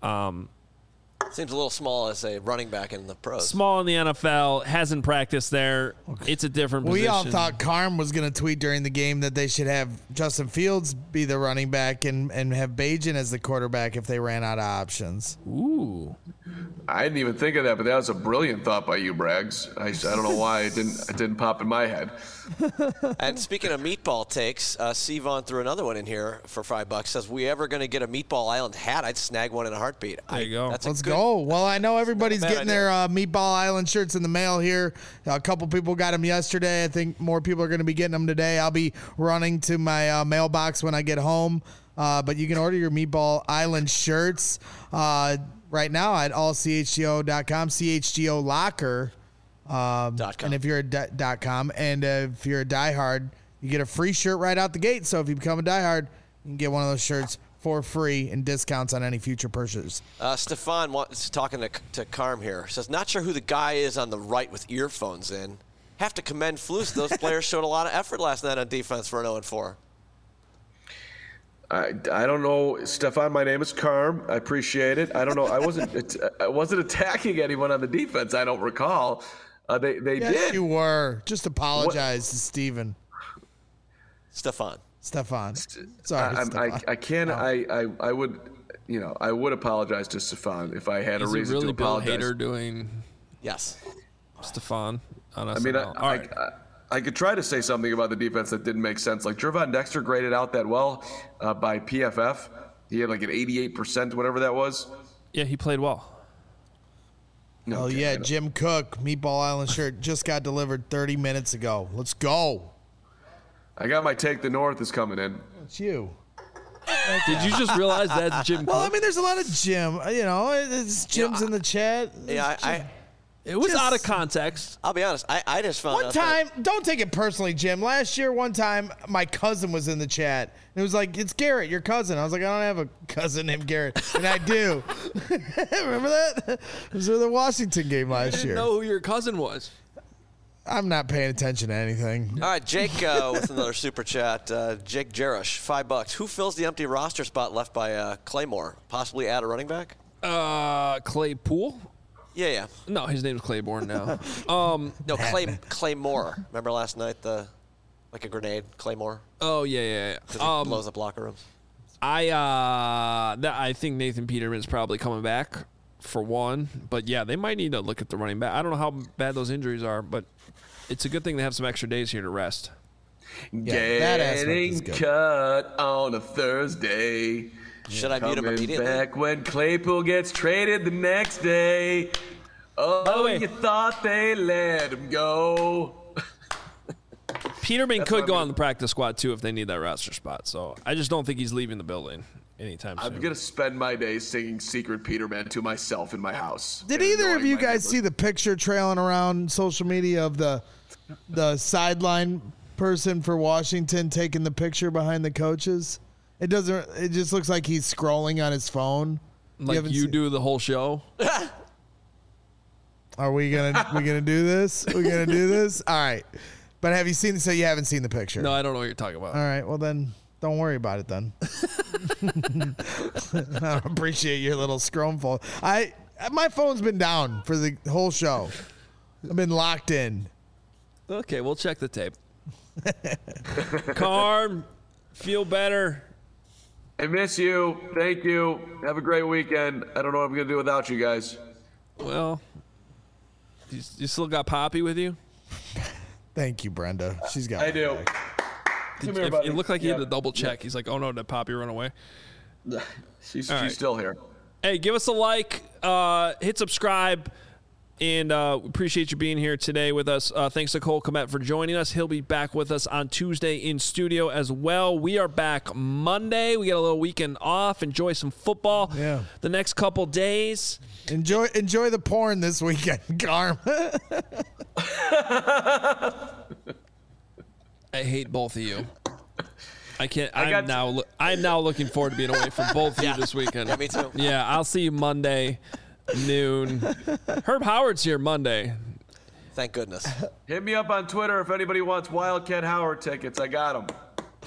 Seems a little small as a running back in the pros. Small in the NFL, hasn't practiced there. It's a different position. We all thought Carm was going to tweet during the game that they should have Justin Fields be the running back and have Bajan as the quarterback if they ran out of options. Ooh. I didn't even think of that, but that was a brilliant thought by you, Braggs. I don't know why it didn't pop in my head. And speaking of meatball takes, Cvon threw another one in here for $5. Says, we ever going to get a Meatball Island hat? I'd snag one in a heartbeat. There you go. Let's go. Well, I know everybody's getting their Meatball Island shirts in the mail here. A couple people got them yesterday. I think more people are going to be getting them today. I'll be running to my mailbox when I get home. But you can order your Meatball Island shirts right now at allchgo.com, CHGO Locker. And if you're a .com, and if you're a diehard, you get a free shirt right out the gate. So if you become a diehard, you can get one of those shirts for free and discounts on any future purchases. Stefan is talking to Carm here. Says, not sure who the guy is on the right with earphones in. Have to commend Flus. Those players showed a lot of effort last night on defense for an 0-4. I don't know, Stefan. My name is Carm. I appreciate it. I don't know. I wasn't attacking anyone on the defense. I don't recall. They yes, did. You were. Just apologize to Steven. Stefan. Sorry, Stefan. I can. I would. I would apologize to Stefan if I had a reason really to apologize. Bill Hader doing? Yes. Stefan. I mean, I could try to say something about the defense that didn't make sense. Like Gervon Dexter graded out that well by PFF. He had like an 88%, whatever that was. Yeah, he played well. No, yeah, Jim Cook, Meatball Island shirt just got delivered 30 minutes ago. Let's go. I got my Take the North is coming in. It's you. Did you just realize that's Jim? Well, I mean, there's a lot of Jim. It's Jim's in the chat. Yeah, it was out of context. I'll be honest. I just found out. One time, don't take it personally, Jim. Last year, one time, my cousin was in the chat. And it was like, it's Garrett, your cousin. I was like, I don't have a cousin named Garrett. And I do. Remember that? It was the Washington game last year. I didn't know who your cousin was. I'm not paying attention to anything. All right, Jake with another super chat. Jake Jerish, $5. Who fills the empty roster spot left by Claymore? Possibly add a running back? Claypool? Yeah. No, his name's Claiborne now. No, Claymore. Remember last night, like a grenade, Claymore? Oh, yeah. Because he blows up locker rooms. I think Nathan Peterman's probably coming back for one. But, yeah, they might need to look at the running back. I don't know how bad those injuries are, but it's a good thing they have some extra days here to rest. Getting cut on a Thursday. Should I mute him immediately? Back when Claypool gets traded the next day. Oh, you thought they let him go. Peterman could go on the practice squad, too, if they need that roster spot. So I just don't think he's leaving the building anytime soon. I'm going to spend my days singing Secret Peterman to myself in my house. Did either of you guys see the picture trailing around social media of the sideline person for Washington taking the picture behind the coaches? It just looks like he's scrolling on his phone. Like you do the whole show? Are we gonna do this? We're gonna do this? All right. But have you seen? So you haven't seen the picture? No, I don't know what you're talking about. All right. Well, then don't worry about it. Then I appreciate your little scrumful. My phone's been down for the whole show. I've been locked in. Okay, we'll check the tape. Carm, feel better. I miss you. Thank you. Have a great weekend. I don't know what I'm going to do without you guys. Well, you still got Poppy with you? Thank you, Brenda. She's got I do. Come here, buddy. It looked like he had to double check. He's like, oh, no, did Poppy run away? She's still here. Hey, give us a like. Hit subscribe. And appreciate you being here today with us. Thanks to Cole Kmet for joining us. He'll be back with us on Tuesday in studio as well. We are back Monday. We got a little weekend off. Enjoy some football. Yeah. The next couple days. Enjoy the porn this weekend, Garm. I hate both of you. I can't. I'm now looking forward to being away from both of you this weekend. Yeah, me too. Yeah, I'll see you Monday. Noon. Herb Howard's here Monday. Thank goodness. Hit me up on Twitter if anybody wants Wildcat Howard tickets. I got them.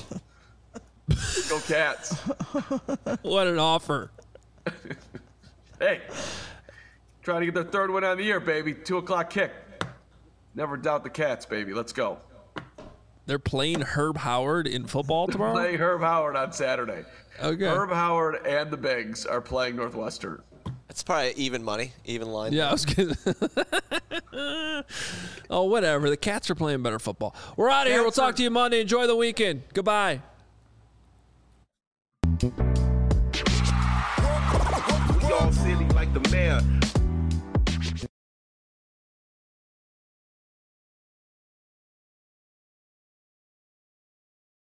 Go Cats. What an offer. Hey, trying to get their third win on the year, baby. 2:00 kick. Never doubt the Cats, baby. Let's go. They're playing Herb Howard in football tomorrow? Playing Herb Howard on Saturday. Okay. Herb Howard and the Bigs are playing Northwestern. It's probably even money, even line. Yeah, I was kidding. Oh, whatever. The Cats are playing better football. We're out of here. We'll talk to you Monday. Enjoy the weekend. Goodbye. We all silly like the mayor.